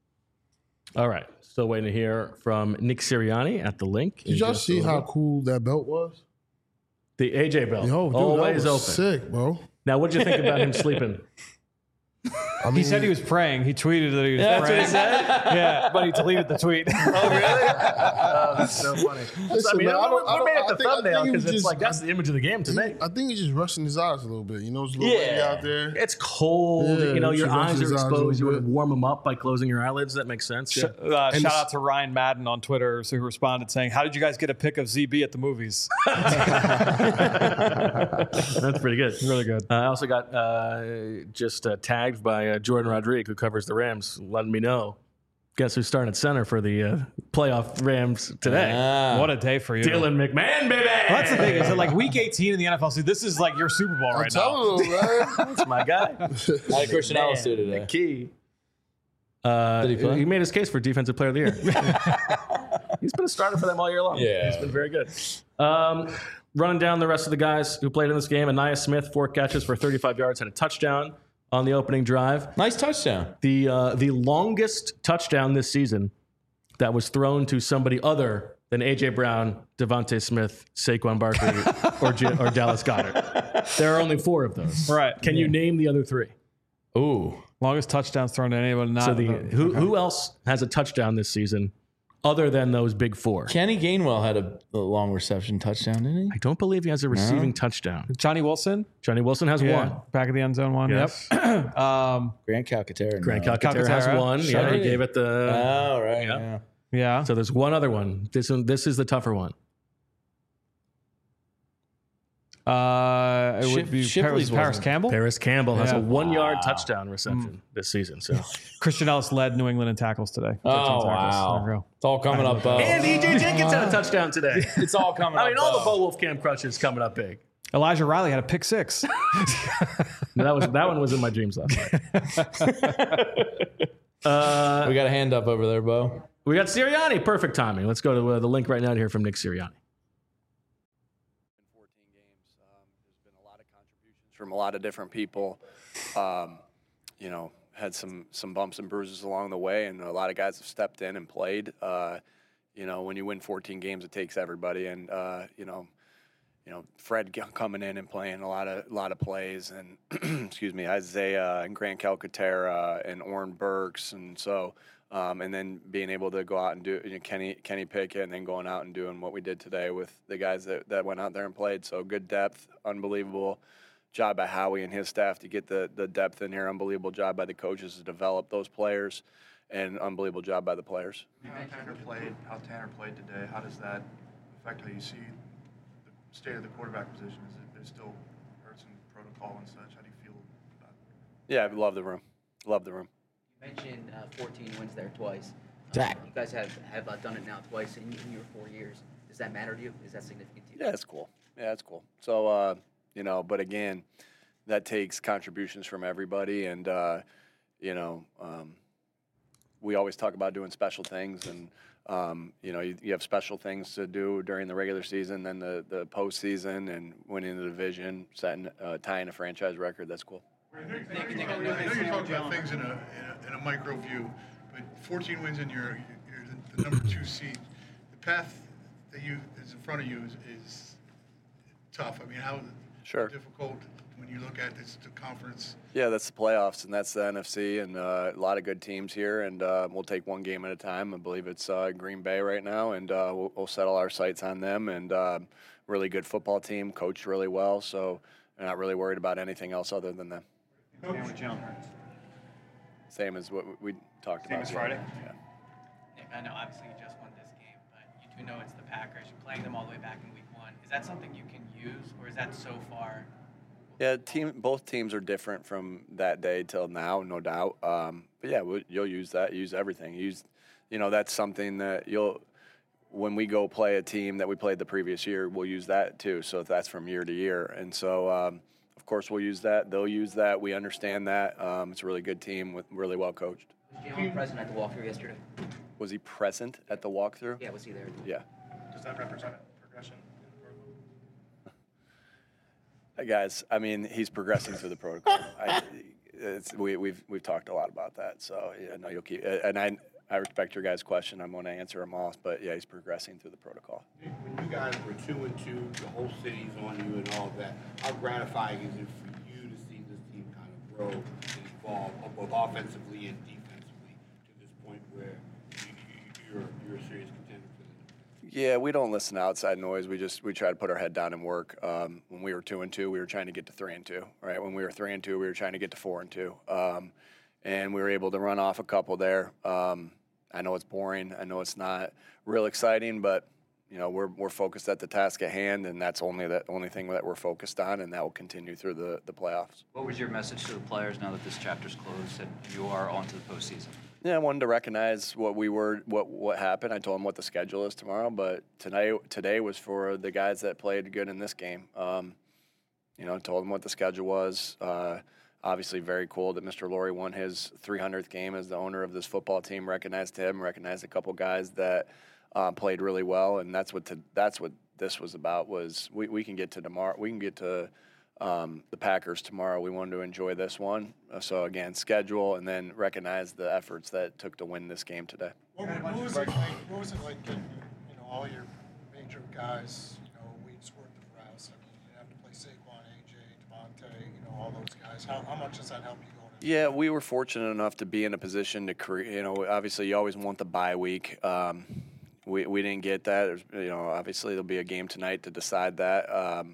S1: All right. Still waiting to hear from Nick Sirianni at the Link.
S2: Did y'all see how cool that belt was?
S1: The A J belt.
S2: Yo, dude,
S1: always
S2: that was
S1: open.
S2: sick, bro.
S1: Now, what did you think about him sleeping?
S2: I mean,
S4: He said he was praying. He tweeted that he was
S3: Yeah, that's what
S4: praying.
S3: he said.
S4: Yeah, but he deleted the tweet.
S1: Oh, really? Oh, that's so funny.
S2: Listen,
S1: I mean,
S2: man, I
S1: what,
S2: don't- I
S1: what
S2: don't-
S1: made
S2: I
S1: it the
S2: think- I
S1: thumbnail?
S2: think he
S1: Because
S2: was
S1: it's
S2: just-
S1: like, that's the image of the game to me.
S2: I think he's just rushing his eyes a little bit. You know, it's a little windy
S3: Yeah.
S2: out there.
S1: It's cold.
S2: Yeah,
S1: you know,
S2: you
S1: your
S2: should rest
S1: eyes
S2: his
S1: are
S2: eyes a little
S1: exposed. You want to
S2: bit.
S1: warm them up by closing your eyelids. That makes sense. Yeah.
S4: Uh,
S2: And
S4: shout
S2: the-
S4: out to Ryan Madden on Twitter, so who responded saying, "How did you guys get a pic of Z B at the movies?"
S1: That's pretty good.
S4: Really good.
S1: Uh, I also got uh, just uh, tagged by uh, Jordan Rodriguez, who covers the Rams, letting me know. Guess who's starting at center for the uh, playoff Rams today?
S3: Ah.
S4: What a day for you.
S1: Dylan McMahon, baby.
S4: Well, that's the thing is that like week eighteen in the N F L season, this is like your Super Bowl
S2: I'm
S4: right now.
S2: telling you, man.
S1: That's my guy.
S3: How did Christian Ellis do today?
S1: Key. Uh,
S3: Did he play?
S1: he made his case for Defensive Player of the Year. He's been a starter for them all year long.
S3: Yeah.
S1: He's been very good. Um, running down the rest of the guys who played in this game, Anaya Smith, four catches for thirty-five yards, had a touchdown on the opening drive.
S3: Nice touchdown.
S1: The uh, the longest touchdown this season that was thrown to somebody other than A J Brown, Devontae Smith, Saquon Barkley, or, J- or Dallas Goedert. There are only four of those.
S4: Right.
S1: Can you name the other three?
S3: Ooh.
S4: Longest touchdowns thrown to anyone. Not
S1: So the
S4: the-
S1: who who else has a touchdown this season other than those big four?
S3: Kenny Gainwell had a, a long reception touchdown, didn't he?
S1: I don't believe he has a receiving touchdown.
S4: Johnny Wilson.
S1: Johnny Wilson has
S4: Yeah,
S1: one.
S4: back of the end zone one.
S1: Yes.
S4: Yep. um,
S3: Grant Calcaterra.
S1: Grant
S3: no.
S1: Calcaterra has
S4: Calcaterra.
S1: one. Yeah, he
S3: Shiny.
S1: gave it the.
S3: Oh, right.
S1: Yeah.
S3: Yeah.
S4: yeah.
S1: So there's one other one. This one. This is the tougher one.
S4: Uh, it
S3: Ship-
S4: would be
S3: Shipley's
S4: Paris, Paris
S3: wasn't-
S4: Campbell.
S1: Paris Campbell has
S4: Yeah.
S1: a one-yard touchdown reception this season. So
S4: Christian Ellis led New England in tackles today.
S3: Oh,
S4: thirteen tackles. There we
S3: wow.
S4: go.
S3: It's all coming up. Uh,
S1: and E J Jenkins had a touchdown today.
S3: it's all coming up.
S1: I mean, all the
S3: uh,
S1: Bo Wolf Camp crushes coming up big.
S4: Elijah Riley had a pick six.
S1: No, that was that one was in my dreams last night. uh,
S3: We got a hand up over there, Bo.
S1: we got Sirianni. Perfect timing. Let's go to uh, the link right now to hear from Nick Sirianni.
S5: fourteen games. Um, there's been a lot of contributions from a lot of different people. Um, you know, had some some bumps and bruises along the way, and a lot of guys have stepped in and played. Uh, you know, when you win fourteen games, it takes everybody, and uh, you know, you know, Fred coming in and playing a lot of a lot of plays, and excuse me, Isaiah and Grant Calcaterra and Oren Burks, and so. Um, and then being able to go out and do you know, Kenny Kenny Pickett, and then going out and doing what we did today with the guys that, that went out there and played. So good depth, unbelievable job by Howie and his staff to get the, the depth in here. Unbelievable job by the coaches to develop those players, and unbelievable job by the players.
S6: How Tanner played, how Tanner played today, how does that affect how you see the state of the quarterback position? Is it there's still hurts and protocol and such? How do you feel about it?
S5: Yeah, I love the room. Love the room.
S7: You mentioned uh, fourteen wins there twice.
S3: Zach.
S7: You guys have, have uh, done it now twice in, in your four years. Does that matter to you? Is that significant to you?
S5: Yeah, it's cool. Yeah, it's cool. So, uh, you know, but again, that takes contributions from everybody. And, uh, you know, um, we always talk about doing special things. And, um, you know, you, you have special things to do during the regular season, then the, the postseason, and winning the division, setting, uh, tying a franchise record. That's cool.
S6: I know, I know you're talking about things in a, in a, in a micro view, but fourteen wins in your, you're the, the number two seed. The path that you is in front of you is, is tough. I mean, how
S5: Sure.
S6: difficult when you look at this the conference?
S5: Yeah, that's the playoffs, and that's the N F C, and uh, a lot of good teams here, and uh, we'll take one game at a time. I believe it's uh, Green Bay right now, and uh, we'll, we'll settle our sights on them, and uh, really good football team, coached really well, so I'm not really worried about anything else other than them. Same as what we talked
S8: Same
S5: about.
S8: as Friday?
S5: Yeah.
S8: Nick, I know obviously you just won this game, but you do know it's the Packers. You're playing them all the way back in week one. Is that something you can use, or is that so far?
S5: Yeah, team. Both teams are different from that day till now, no doubt. Um, but yeah, we'll, you'll use that. Use everything. Use, you know, that's something that you'll. When we go play a team that we played the previous year, we'll use that too. So that's from year to year, and so um, of course we'll use that. They'll use that. We understand that. Um, it's a really good team with really well coached.
S7: Was Jalen present at the walkthrough yesterday?
S5: Was he present at the walkthrough?
S7: Yeah, was he there?
S5: Yeah.
S6: Does that represent progression?
S5: Hey guys, I mean, he's progressing through the protocol. I, it's, we, we've we've talked a lot about that, so yeah, no, you'll keep. And I I respect your guys' question. I'm going to answer them all, but yeah, he's progressing through the protocol.
S9: When you guys were two and two, the whole city's on you and all that. How gratifying is it for you to see this team kind of grow and evolve, both offensively and defensively, to this point where you, you, you're you're a serious contender for the
S5: Yeah, we don't listen to outside noise. We just we try to put our head down and work. Um, when we were two and two, we were trying to get to three and two. Right? When we were three and two, we were trying to get to four and two. Um, and we were able to run off a couple there. Um, I know it's boring. I know it's not real exciting, but you know we're we're focused at the task at hand, and that's only the only thing that we're focused on, and that will continue through the, the playoffs.
S10: What was your message to the players now that this chapter's closed and you are on to the postseason?
S5: Yeah, I wanted to recognize what we were, what what happened. I told them what the schedule is tomorrow, but tonight today was for the guys that played good in this game. Um, you know, told them what the schedule was. Uh, obviously, very cool that Mister Lurie won his three hundredth game as the owner of this football team. Recognized him, recognized a couple guys that uh, played really well, and that's what to, that's what this was about. Was we, we can get to tomorrow. We can get to Um, the Packers tomorrow. We wanted to enjoy this one. Uh, so again, schedule and then recognize the efforts that it took to win this game today.
S11: What, what was it like? What was it like getting, you know, all your major guys, you know, weeks worth of rest? I mean, you have to play Saquon, A J, Devontae, you know, all those guys. How, how much does that help you going into?
S5: Yeah, we were fortunate enough to be in a position to create. You know, obviously you always want the bye week. Um, we we didn't get that. There's, you know, obviously there'll be a game tonight to decide that. Um,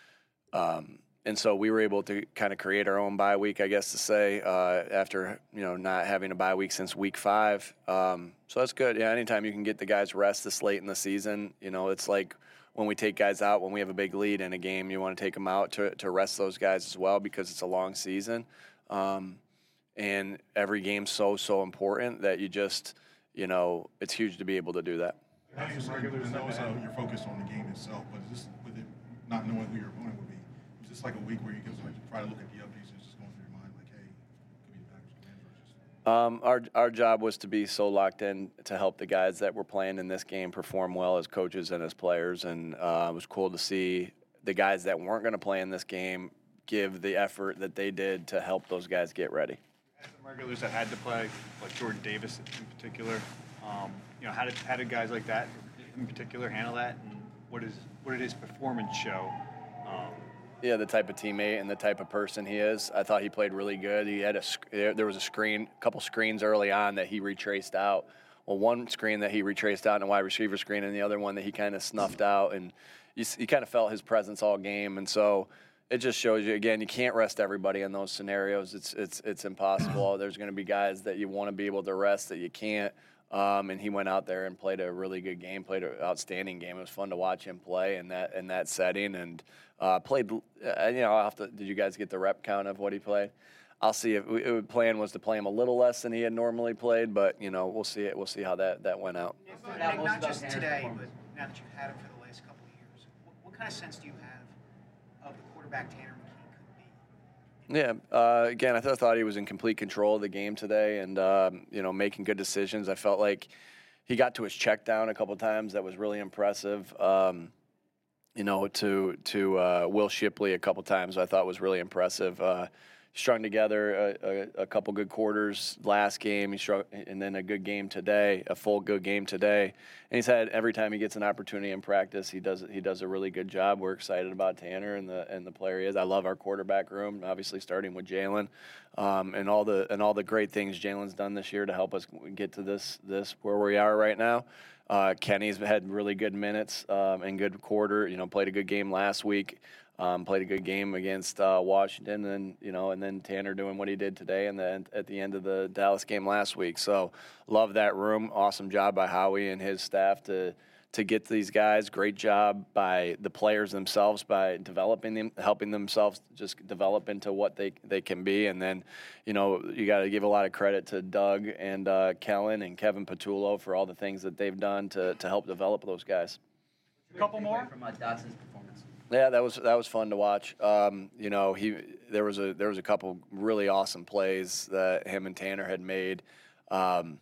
S5: um, And so we were able to kind of create our own bye week, I guess to say, uh, after, you know, not having a bye week since week five. Um, so that's good. Yeah, anytime you can get the guys rest this late in the season, you know, it's like when we take guys out, when we have a big lead in a game, you want to take them out to, to rest those guys as well because it's a long season. Um, and every game's so, so important that you just, you know, it's huge to be able to do that.
S6: How do you regulars know uh, you're focused on the game itself, but just with it not knowing who your opponent would be? this like a week where you just like try to look at the updates and it's just going through your mind like, hey, could be the Packers again versus.
S5: Um, our our job was to be so locked in to help the guys that were playing in this game perform well as coaches and as players, and uh, it was cool to see the guys that weren't going to play in this game give the effort that they did to help those guys get ready.
S12: As the regulars that had to play, like Jordan Davis in particular, um, you know, how did how did guys like that in particular handle that, and what is what did his performance show? Um,
S5: Yeah, the type of teammate and the type of person he is. I thought he played really good. He had a there was a screen, a couple screens early on that he retraced out. Well, one screen that he retraced out in a wide receiver screen, and the other one that he kind of snuffed out, and you, you kind of felt his presence all game. And so it just shows you again, you can't rest everybody in those scenarios. It's it's it's impossible. There's going to be guys that you want to be able to rest that you can't. Um, and he went out there and played a really good game, played an outstanding game. It was fun to watch him play in that in that setting, and uh, played. Uh, you know, I'll have to, did you guys get the rep count of what he played? I'll see if the plan was to play him a little less than he had normally played, but you know, we'll see it. We'll see how that, that went out.
S13: And not just today, but now that you've had him for the last couple of years, what, what kind of sense do you have of the quarterback Tanner McKee could be?
S5: Yeah, uh, again, I th- thought he was in complete control of the game today, and um, you know, making good decisions. I felt like he got to his check down a couple of times. That was really impressive. Um, you know, to to uh, Will Shipley a couple times, I thought was really impressive. Uh, strung together a, a, a couple good quarters last game, he strung, and then a good game today, a full good game today. And he's had every time he gets an opportunity in practice, he does he does a really good job. We're excited about Tanner and the and the player he is. I love our quarterback room, obviously starting with Jalen, um, and all the and all the great things Jalen's done this year to help us get to this this where we are right now. Uh, Kenny's had really good minutes um, and good quarter. You know, played a good game last week. Um, played a good game against uh, Washington, and you know, and then Tanner doing what he did today, and then at the end of the Dallas game last week. So, love that room. Awesome job by Howie and his staff to to get these guys. Great job by the players themselves by developing them, helping themselves just develop into what they they can be. And then, you know, you got to give a lot of credit to Doug and uh, Kellen and Kevin Patullo for all the things that they've done to to help develop those guys.
S7: A couple more from uh, Dotson's performance.
S5: Yeah, that was that was fun to watch. Um, you know, he there was a there was a couple really awesome plays that him and Tanner had made. Um,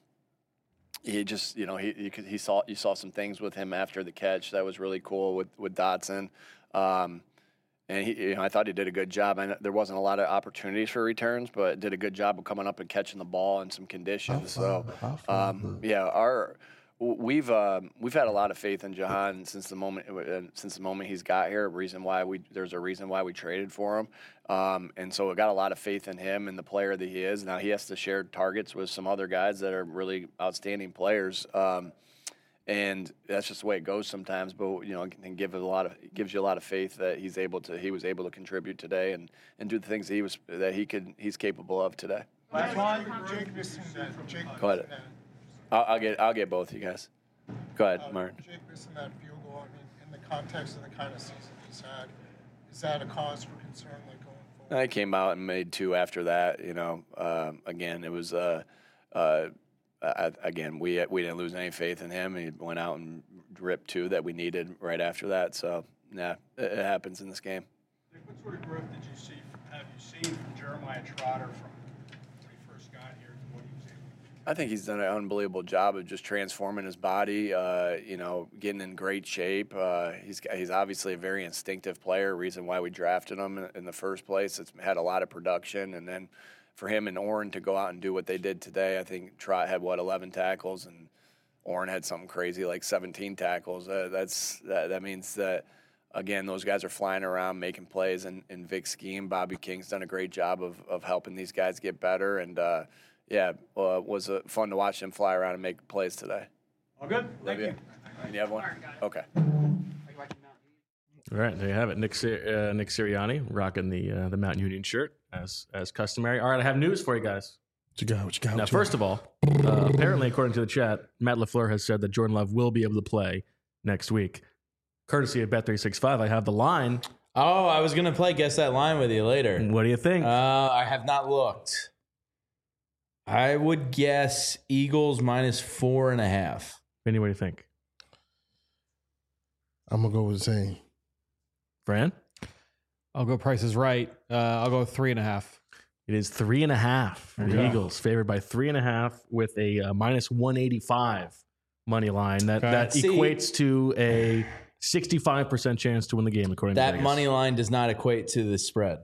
S5: he just, you know, he you, could, he saw you saw some things with him after the catch that was really cool with with Dotson, um, and he, you know, I thought he did a good job. I know there wasn't a lot of opportunities for returns, but did a good job of coming up and catching the ball in some conditions. So, um, yeah, our. We've uh, we've had a lot of faith in Jahan since the moment uh, since the moment he's got here. Reason why we there's a reason why we traded for him, um, and so we got a lot of faith in him and the player that he is. Now he has to share targets with some other guys that are really outstanding players, um, and that's just the way it goes sometimes. But you know, and give a lot of gives you a lot of faith that he's able to he was able to contribute today and, and do the things that he was that he could he's capable of today.
S11: Last one, Jake missing that. Jake
S5: Go ahead. I'll, I'll get I'll get both you guys. Go ahead,
S11: uh,
S5: Martin.
S11: Jake missing that field goal. I mean, in the context of the kind of season he's had, is that a cause for concern, like going forward?
S5: I came out and made two after that. You know, um, again, it was uh, uh, I, again we we didn't lose any faith in him. He went out and ripped two that we needed right after that. So yeah, it, it happens in this game.
S14: What sort of growth did you see? Have you seen from Jeremiah Trotter from when he first got here to what he was able to do?
S5: I think he's done an unbelievable job of just transforming his body, uh, you know, getting in great shape. Uh, he's he's obviously a very instinctive player, reason why we drafted him in, in the first place. It's had a lot of production. And then for him and Orrin to go out and do what they did today, I think Trot had, what, eleven tackles, and Orrin had something crazy like seventeen tackles. Uh, that's that, that means that, again, those guys are flying around making plays in, in Vic's scheme. Bobby King's done a great job of, of helping these guys get better. And, uh, Yeah, uh, was uh, fun to watch them fly around and make plays today.
S14: All good. Thank you.
S5: You have one? Okay.
S1: All right, there you have it. Nick uh, Nick Sirianni rocking the uh, the Mount Union shirt as as customary. All right, I have news for you guys.
S2: What you got? What you got?
S1: Now,
S2: What you
S1: first of all, uh, apparently, according to the chat, Matt LaFleur has said that Jordan Love will be able to play next week. Courtesy of Bet three sixty-five, I have the line.
S3: Oh, I was gonna play Guess That Line with you later.
S1: What do you think?
S3: Uh, I have not looked. I would guess Eagles minus four and a half.
S1: Vinny, what do you think?
S2: I'm gonna go with the same.
S1: Fran?
S4: I'll go Price is Right. Uh, I'll go three and a half.
S1: It is three and a half. The
S4: Okay.
S1: Eagles favored by three and a half with a uh, minus one eighty-five money line. That
S4: Okay.
S1: that
S3: See-
S1: equates to a sixty-five percent chance to win the game, according to
S3: That
S1: Vegas.
S3: money line does not equate to the spread.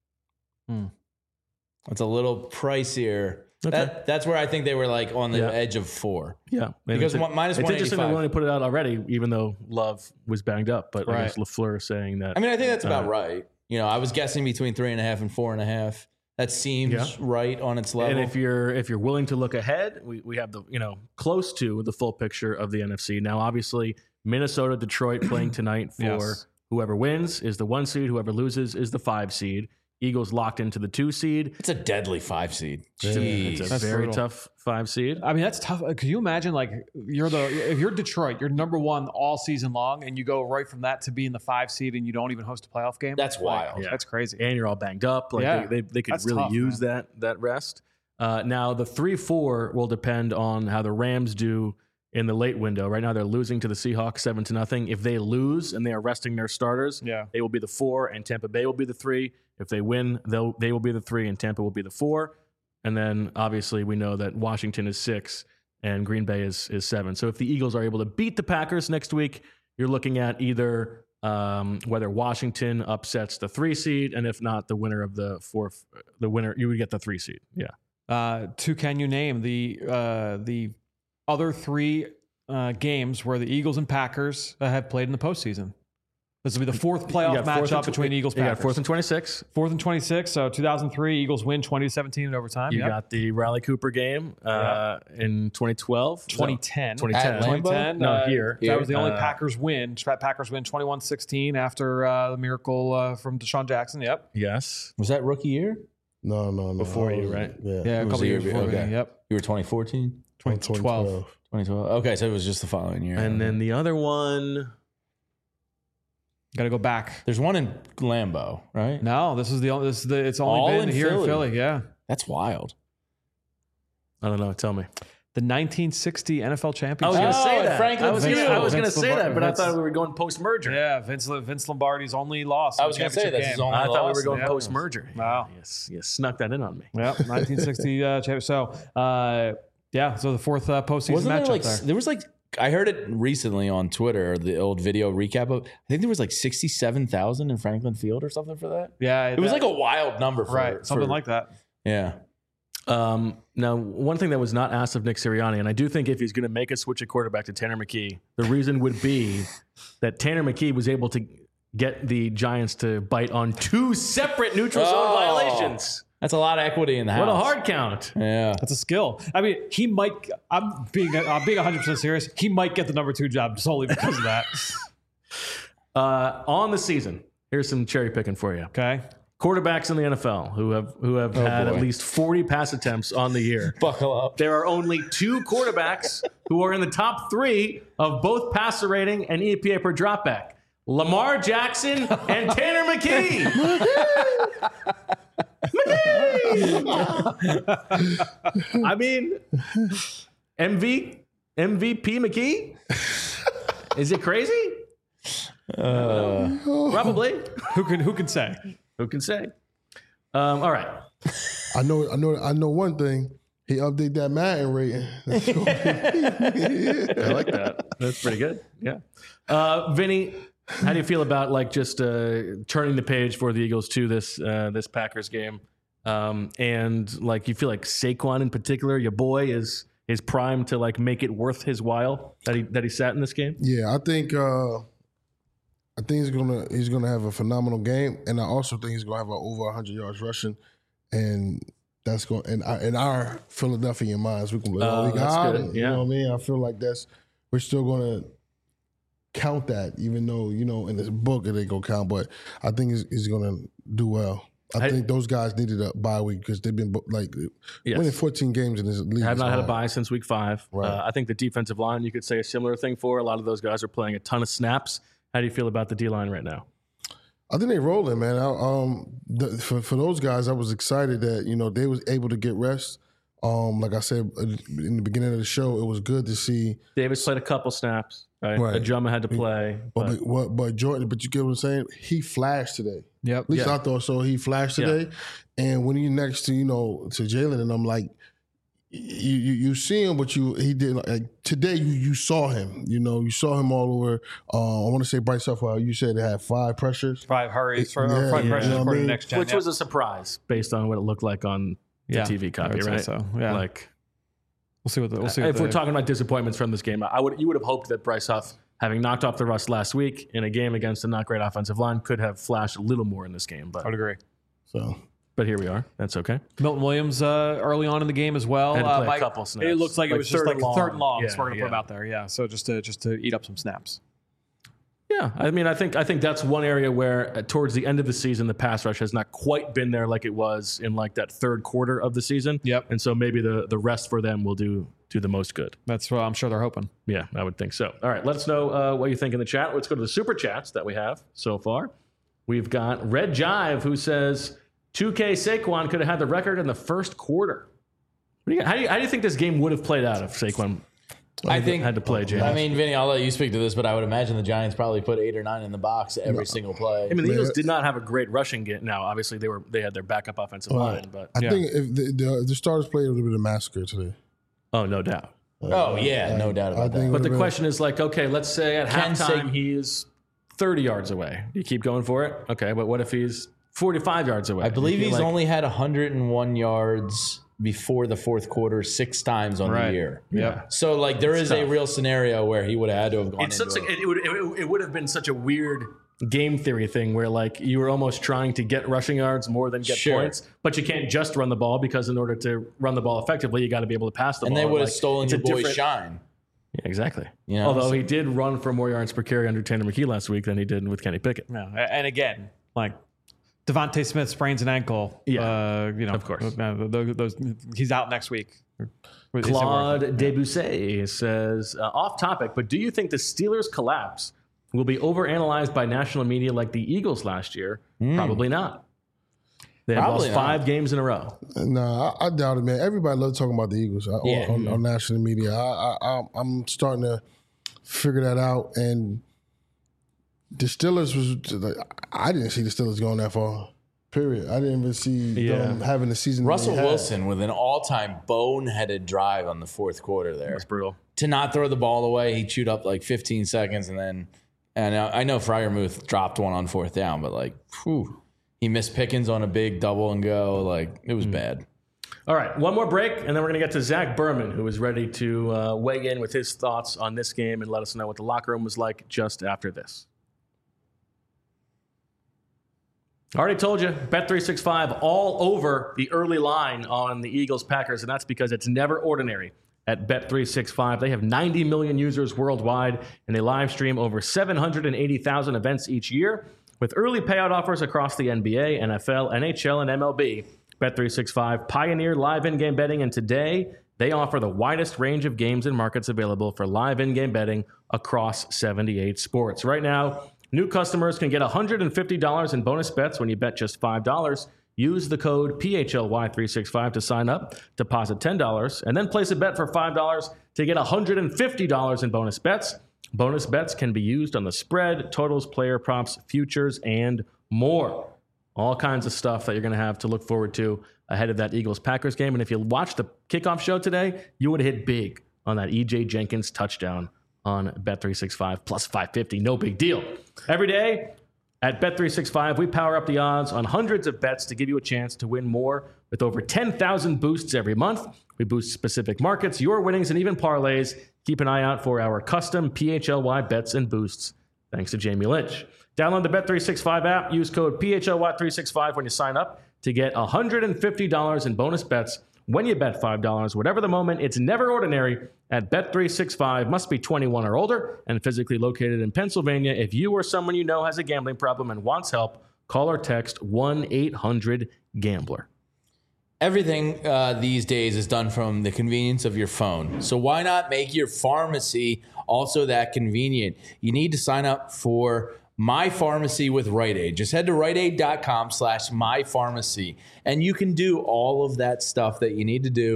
S4: Hmm.
S3: It's a little pricier.
S1: Okay.
S3: That, that's where I think they were like on the
S1: Yeah.
S3: edge of four.
S1: Yeah, and
S3: Because
S1: it's,
S3: one- minus
S1: it's interesting they
S3: one eighty-five.
S1: only put it out already, even though Love was banged up. But I guess
S4: Right.
S1: LaFleur saying that.
S3: I mean, I think that's about
S1: uh,
S3: right. You know, I was guessing between three and a half and four and a half. That seems
S1: Yeah.
S3: right on its level.
S1: And if you're if you're willing to look ahead, we, we have the you know close to the full picture of the N F C. Now, obviously, Minnesota, Detroit playing tonight for
S4: Yes.
S1: whoever wins is the one seed. Whoever loses is the five seed. Eagles locked into the two seed.
S3: It's a deadly five seed.
S1: It's a, it's a
S4: That's
S1: very
S4: brutal.
S1: tough five seed.
S4: I mean, that's tough. Could you imagine, like, you're the if you're Detroit, you're number one all season long, and you go right from that to being the five seed, and you don't even host a playoff game?
S3: That's
S4: Like,
S3: wild.
S1: Yeah.
S4: That's crazy.
S1: And you're all banged up. Like
S4: Yeah.
S1: they, they, they could
S4: That's
S1: really
S4: tough,
S1: use
S4: man.
S1: that that rest. Uh, now the three four will depend on how the Rams do in the late window. Right now they're losing to the Seahawks seven to nothing. If they lose and they are resting their starters,
S4: Yeah.
S1: they will be the four, and Tampa Bay will be the three. If they win, they'll they will be the three, and Tampa will be the four. And then obviously we know that Washington is six and Green Bay is is seven. So if the Eagles are able to beat the Packers next week, you're looking at either um, whether Washington upsets the three seed, and if not, the winner of the fourth, the winner you would get the three seed. Yeah.
S4: Uh, two, can you name the uh, the other three uh, games where the Eagles and Packers uh, have played in the postseason? This will be the fourth playoff
S1: You got fourth
S4: matchup
S1: and tw-
S4: between Eagles
S1: You
S4: Packers.
S1: got fourth and twenty-six.
S4: Fourth and twenty-six. So two thousand three, Eagles win twenty to seventeen in overtime.
S1: You
S4: Yep.
S1: got the Riley Cooper game uh, in twenty twelve.
S4: twenty ten.
S1: twenty ten.
S3: At Lambeau?
S4: twenty ten.
S1: No,
S4: uh,
S1: here.
S4: That was the only
S1: Uh,
S4: Packers win. Packers win twenty-one sixteen after uh, the miracle uh, from Deshaun Jackson. Yep.
S1: Yes.
S3: Was that rookie year?
S2: No, no, no.
S1: Before
S2: I
S1: you,
S2: was-
S1: right?
S2: Yeah.
S4: Yeah, a
S3: It was
S4: couple
S3: the
S4: years
S3: year
S4: before.
S3: okay.
S4: me. Yep.
S3: You were twenty fourteen?
S4: twenty twelve.
S3: twenty twelve. Okay, so it was just the following year.
S1: And then the other one.
S4: Got to go back.
S3: There's one in Lambeau, right?
S4: No, this is the only. This is the. It's only
S3: All
S4: been
S3: in
S4: here
S3: Philly.
S4: in Philly. Yeah.
S3: That's wild.
S1: I don't know. Tell me.
S4: The nineteen sixty N F L
S1: I
S4: championship.
S1: was going to
S3: Oh,
S1: say
S3: at
S1: that.
S3: Franklin
S1: I was
S3: Field.
S1: gonna, I was going to
S4: Vince
S1: say that,
S4: Lombardi-
S1: but I
S4: Vince-
S1: thought we were going post merger.
S4: Yeah, Vince Vince Lombardi's only loss.
S3: I
S4: in
S3: was
S4: the
S3: gonna say
S4: championship
S3: that's his
S4: game.
S3: only
S1: I thought we
S3: loss.
S1: were going
S4: Yeah.
S1: post merger.
S4: Wow.
S1: Yes, you snuck that in on me.
S4: Yep, nineteen sixty uh, champion. So, uh, yeah, so the fourth uh, postseason
S3: Wasn't there
S4: matchup
S3: like
S4: there.
S3: there was like I heard it recently on Twitter, the old video recap of I think there was like sixty-seven thousand in Franklin Field or something for that.
S4: Yeah,
S3: It was
S4: that-
S3: like a wild number for
S4: right, something
S3: for-
S4: like that.
S3: Yeah.
S1: Um, now, one thing that was not asked of Nick Sirianni, and I do think if he's going to make a switch at quarterback to Tanner McKee, the reason would be that Tanner McKee was able to get the Giants to bite on two separate neutral zone
S3: Oh.
S1: violations.
S3: That's a lot of equity in the house.
S1: What a hard count.
S3: Yeah.
S4: That's a skill. I mean, he might. I'm being. I'm being one hundred percent serious. He might get the number two job solely because of that.
S1: Uh, on the season, here's some cherry picking for you.
S4: Okay.
S1: Quarterbacks in the N F L who have who have had
S3: boy.
S1: at least forty pass attempts on the year.
S3: Buckle up.
S1: There are only two quarterbacks who are in the top three of both passer rating and E P A per dropback. Lamar Jackson and Tanner McKee. McKee! I mean, M V, M V P McKee? Is it crazy?
S3: Uh,
S1: Probably.
S4: Who can? Who can say?
S1: Who can say? Um, all right.
S2: I know, I know, I know one thing. He updated that Madden rating. That's gonna be-
S1: I like that. That's pretty good. Yeah. Uh, Vinny, how do you feel about like just uh, turning the page for the Eagles to this uh, this Packers game? Um, and like you feel like Saquon in particular, your boy is is primed to like make it worth his while that he that he sat in this game.
S2: Yeah, I think uh, I think he's gonna he's gonna have a phenomenal game, and I also think he's gonna have a over hundred yards rushing, and that's going and in our Philadelphia minds we can be like, oh,
S1: Oh,
S2: we
S1: that's
S2: got
S1: good.
S2: it. You
S1: Yeah.
S2: know what I mean? I feel like that's we're still gonna count that, even though you know in this book it ain't gonna count, but I think he's, he's gonna do well. I,
S1: I-
S2: think those guys needed a bye week because they've been like
S1: Yes.
S2: winning fourteen games in this league.
S1: Have
S2: is
S1: not had a
S2: hard.
S1: bye since week five.
S2: Right.
S1: Uh, I think the defensive line you could say a similar thing for. A lot of those guys are playing a ton of snaps. How do you feel about the D line right now?
S2: I think they rolling, man. I, um, the, for for those guys, I was excited that you know they was able to get rest. Um, like I said in the beginning of the show, it was good to see.
S1: Davis played a couple snaps. right?
S2: Right.
S1: Ajuma had to play.
S2: But,
S1: But,
S2: but, what, but Jordan, but you get what I'm saying? He flashed today.
S4: Yep.
S2: At least
S1: Yeah.
S2: I thought so. He flashed
S1: Yeah.
S2: today. And when he's next to, you know, to Jalen, and I'm like, you, you you see him, but you he didn't. Like, today, you you saw him. You know, you saw him all over. Uh, I want to say Bryce Huffell. You said they had five pressures.
S4: Five hurries for
S2: Yeah,
S4: or five
S2: yeah,
S4: pressures
S2: you know what I
S4: according to
S2: mean?
S4: next gen.
S1: which
S4: yeah.
S1: was a surprise based on what it looked like on the
S4: Yeah,
S1: T V
S4: I
S1: copy,
S4: would say
S1: right?
S4: so, yeah.
S1: Like,
S4: We'll see what the, we'll see.
S1: if
S4: what
S1: we're
S4: the,
S1: talking about disappointments from this game, I would you would have hoped that Bryce Huff, having knocked off the rust last week in a game against a not great offensive line, could have flashed a little more in this game. But
S4: I would agree.
S2: So,
S1: but here we are. That's okay.
S4: Milton Williams uh, early on in the game as well.
S1: Had to
S4: Uh,
S1: play a
S4: Mike-
S1: couple snaps.
S4: It looks like,
S1: Like
S4: it was just
S1: third
S4: like
S1: and long.
S4: third and long.
S1: Yeah,
S4: so we're gonna
S1: yeah.
S4: put him out there. Yeah. So just to just to eat up some snaps.
S1: Yeah, I mean, I think I think that's one area where uh, towards the end of the season, the pass rush has not quite been there like it was in like that third quarter of the season.
S4: Yep.
S1: And so maybe the the rest for them will do do the most good.
S4: That's what I'm sure they're hoping.
S1: Yeah, I would think so. All right, let us know uh, what you think in the chat. Let's go to the super chats that we have so far. We've got Red Jive who says two K Saquon could have had the record in the first quarter. What do you, how, do you, how do you think this game would have played out if Saquon
S3: I think
S1: had to play, James?
S3: I mean, Vinny, I'll let you speak to this, but I would imagine the Giants probably put eight or nine in the box every single play.
S1: I mean, the Eagles did not have a great rushing game. Now, obviously, they were they had their backup offensive line, but
S2: I think if the, the, the starters played, it would have been a massacre today.
S1: oh, no doubt.
S3: Oh yeah, no doubt
S2: I
S3: about
S2: think
S3: that.
S1: But the
S2: been-
S1: question is like, okay, let's say at
S3: Can
S1: halftime
S3: Sa-
S1: he's thirty yards away. You keep going for it, okay? But what if he's forty-five yards away?
S3: I believe
S1: You
S3: he's
S1: feel like-
S3: only had one hundred one yards before the fourth quarter six times on
S4: Right.
S3: the year.
S1: Yeah.
S3: So like there is a
S1: tough.
S3: real scenario where he would have had to have gone
S1: It's
S3: into
S1: such a,
S3: it.
S1: it, would it, it would have been such a weird game theory thing where like you were almost trying to get rushing yards more than get
S3: Sure.
S1: points, but you can't just run the ball because in order to run the ball effectively, you got to be able to pass the
S3: and
S1: ball.
S3: they would have
S1: Like,
S3: stolen
S1: it's
S3: your
S1: a
S3: boy's
S1: different-
S3: shine.
S1: Yeah, exactly.
S3: You know,
S1: Although
S3: so-
S1: he did run for more yards per carry under Tanner McKee last week than he did with Kenny Pickett.
S4: Yeah. And again, like Devontae Smith sprains an ankle.
S1: Yeah.
S4: Uh, you know,
S1: Of course.
S4: uh, those, those, he's out next week. Is it
S1: Claude
S4: worth it?
S1: Debussy says, uh, off topic, but do you think the Steelers' collapse will be overanalyzed by national media like the Eagles last year? Probably not. They have
S3: Probably
S1: lost
S3: not.
S1: five games in a row.
S2: Nah, I, I doubt it, man. Everybody loves talking about the Eagles uh,
S3: Yeah.
S2: on, on national media. I, I, I, I'm starting to figure that out. And the Steelers was, like, I didn't see the Steelers going that far. Period. I didn't even see
S1: Yeah.
S2: them having the season.
S3: Russell
S2: they had.
S3: Wilson with an all-time boneheaded drive on the fourth quarter there.
S1: That's brutal.
S3: To not throw the ball away, he chewed up like fifteen seconds, and then, and I I know Freiermuth dropped one on fourth down, but like, whew, he missed Pickens on a big double and go. Like it was bad.
S1: All right, one more break, and then we're going to get to Zach Berman, who is ready to uh, weigh in with his thoughts on this game and let us know what the locker room was like just after this. I already told you, Bet three sixty-five all over the early line on the Eagles-Packers, and that's because it's never ordinary at Bet three sixty-five. They have ninety million users worldwide, and they live stream over seven hundred eighty thousand events each year with early payout offers across the N B A, N F L, N H L, and M L B. Bet three sixty-five pioneered live in-game betting, and today they offer the widest range of games and markets available for live in-game betting across seventy-eight sports. Right now, new customers can get one hundred fifty dollars in bonus bets when you bet just five dollars. Use the code P H L Y three sixty-five to sign up, deposit ten dollars, and then place a bet for five dollars to get one hundred fifty dollars in bonus bets. Bonus bets can be used on the spread, totals, player props, futures, and more. All kinds of stuff that you're going to have to look forward to ahead of that Eagles-Packers game. And if you watched the kickoff show today, you would have hit big on that E J Jenkins touchdown on Bet three sixty-five plus five fifty. No big deal. Every day at Bet three sixty-five, we power up the odds on hundreds of bets to give you a chance to win more with over ten thousand boosts every month. We boost specific markets, your winnings, and even parlays. Keep an eye out for our custom P H L Y bets and boosts, thanks to Jamie Lynch. Download the Bet three sixty-five app. Use code P H L Y three sixty-five when you sign up to get one hundred fifty dollars in bonus bets when you bet five dollars. Whatever the moment, it's never ordinary at Bet three sixty-five. Must be twenty-one or older and physically located in Pennsylvania. If you or someone you know has a gambling problem and wants help, call or text one eight hundred gambler.
S3: Everything uh, these days is done from the convenience of your phone. So why not make your pharmacy also that convenient? You need to sign up for My Pharmacy with Rite Aid. Just head to rite aid dot com slash my pharmacy, and you can do all of that stuff that you need to do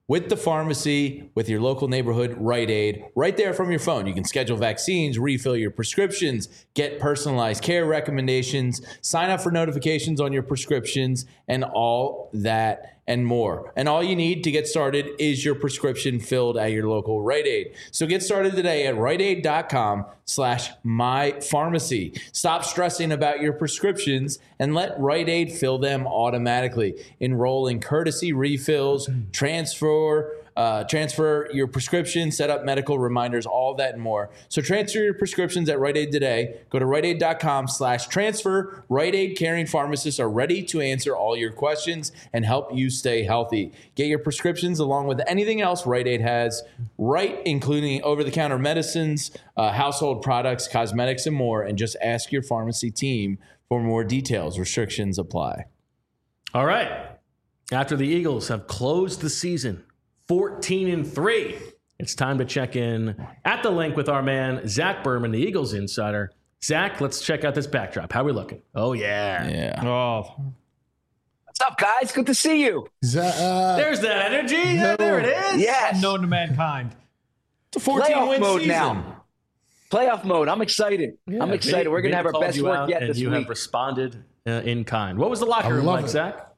S3: with the pharmacy, with your local neighborhood Rite Aid, right there from your phone. You can schedule vaccines, refill your prescriptions, get personalized care recommendations, sign up for notifications on your prescriptions, and all that and more. And all you need to get started is your prescription filled at your local Rite Aid. So get started today at riteaid.com slash mypharmacy. Stop stressing about your prescriptions and let Rite Aid fill them automatically. Enroll in courtesy refills, transfer Uh, transfer your prescription, set up medical reminders, all that and more. So transfer your prescriptions at Rite Aid today. Go to riteaid.com slash transfer. Rite Aid caring pharmacists are ready to answer all your questions and help you stay healthy. Get your prescriptions along with anything else Rite Aid has, right, including over-the-counter medicines, uh, household products, cosmetics, and more. And just ask your pharmacy team for more details. Restrictions apply.
S1: All right. After the Eagles have closed the season fourteen and three, it's time to check in at the link with our man, Zach Berman, the Eagles insider. Zach, let's check out this backdrop. How are we looking? Oh, yeah.
S3: Yeah.
S4: Oh.
S15: What's up, guys? Good to see you.
S2: Zach, uh,
S1: There's that energy. Yeah, there it is.
S15: Yes.
S4: Known to mankind.
S3: It's a fourteen-win
S15: mode
S3: season.
S15: now. Playoff mode. I'm excited.
S1: Yeah,
S15: I'm excited.
S1: Vinny,
S15: We're going to have
S1: Vinny
S15: our
S1: called
S15: best
S1: you
S15: work
S1: out,
S15: yet
S1: and
S15: this
S1: you
S15: week.
S1: have responded uh, in kind. What was the locker
S2: I
S1: room
S2: love
S1: like,
S2: it.
S1: Zach?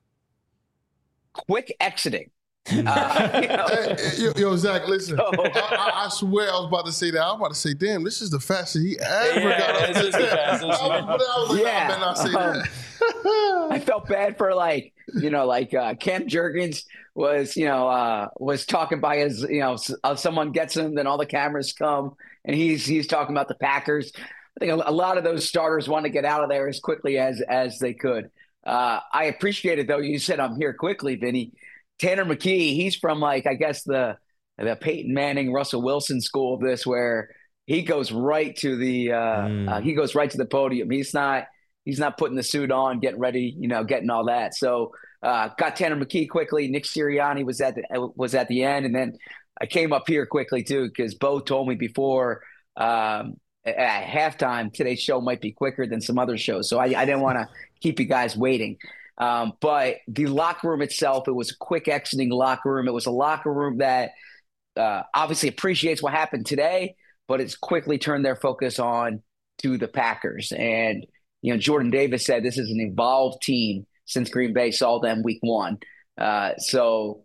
S15: Quick exiting. Uh, you know,
S2: Hey, yo, yo, Zach, listen.
S15: So-
S2: I, I, I swear I was about to say that. I was about to say, damn, this is the fastest he ever
S3: Yeah,
S2: got up
S3: this is the fastest.
S2: I was, but I was like,
S15: Yeah.
S2: nah, I better not say
S15: Um,
S2: that.
S15: I felt bad for like, you know, like uh, Cam Jurgens was, you know, uh, was talking by his, you know, s- uh, someone gets him, then all the cameras come, and he's he's talking about the Packers. I think a, a lot of those starters want to get out of there as quickly as as they could. Uh, I appreciate it though. You said I'm here quickly, Vinny. Tanner McKee, he's from like I guess the the Peyton Manning, Russell Wilson school of this, where he goes right to the uh,
S1: Mm.
S15: uh, he goes right to the podium. He's not he's not putting the suit on, getting ready, you know, getting all that. So uh, got Tanner McKee quickly. Nick Sirianni was at the was at the end, and then I came up here quickly too because Bo told me before um, at halftime today's show might be quicker than some other shows, so I, I didn't want to keep you guys waiting. Um, but the locker room itself, it was a quick exiting locker room. It was a locker room that uh, obviously appreciates what happened today, but it's quickly turned their focus on to the Packers. And, you know, Jordan Davis said this is an evolved team since Green Bay saw them week one. Uh, so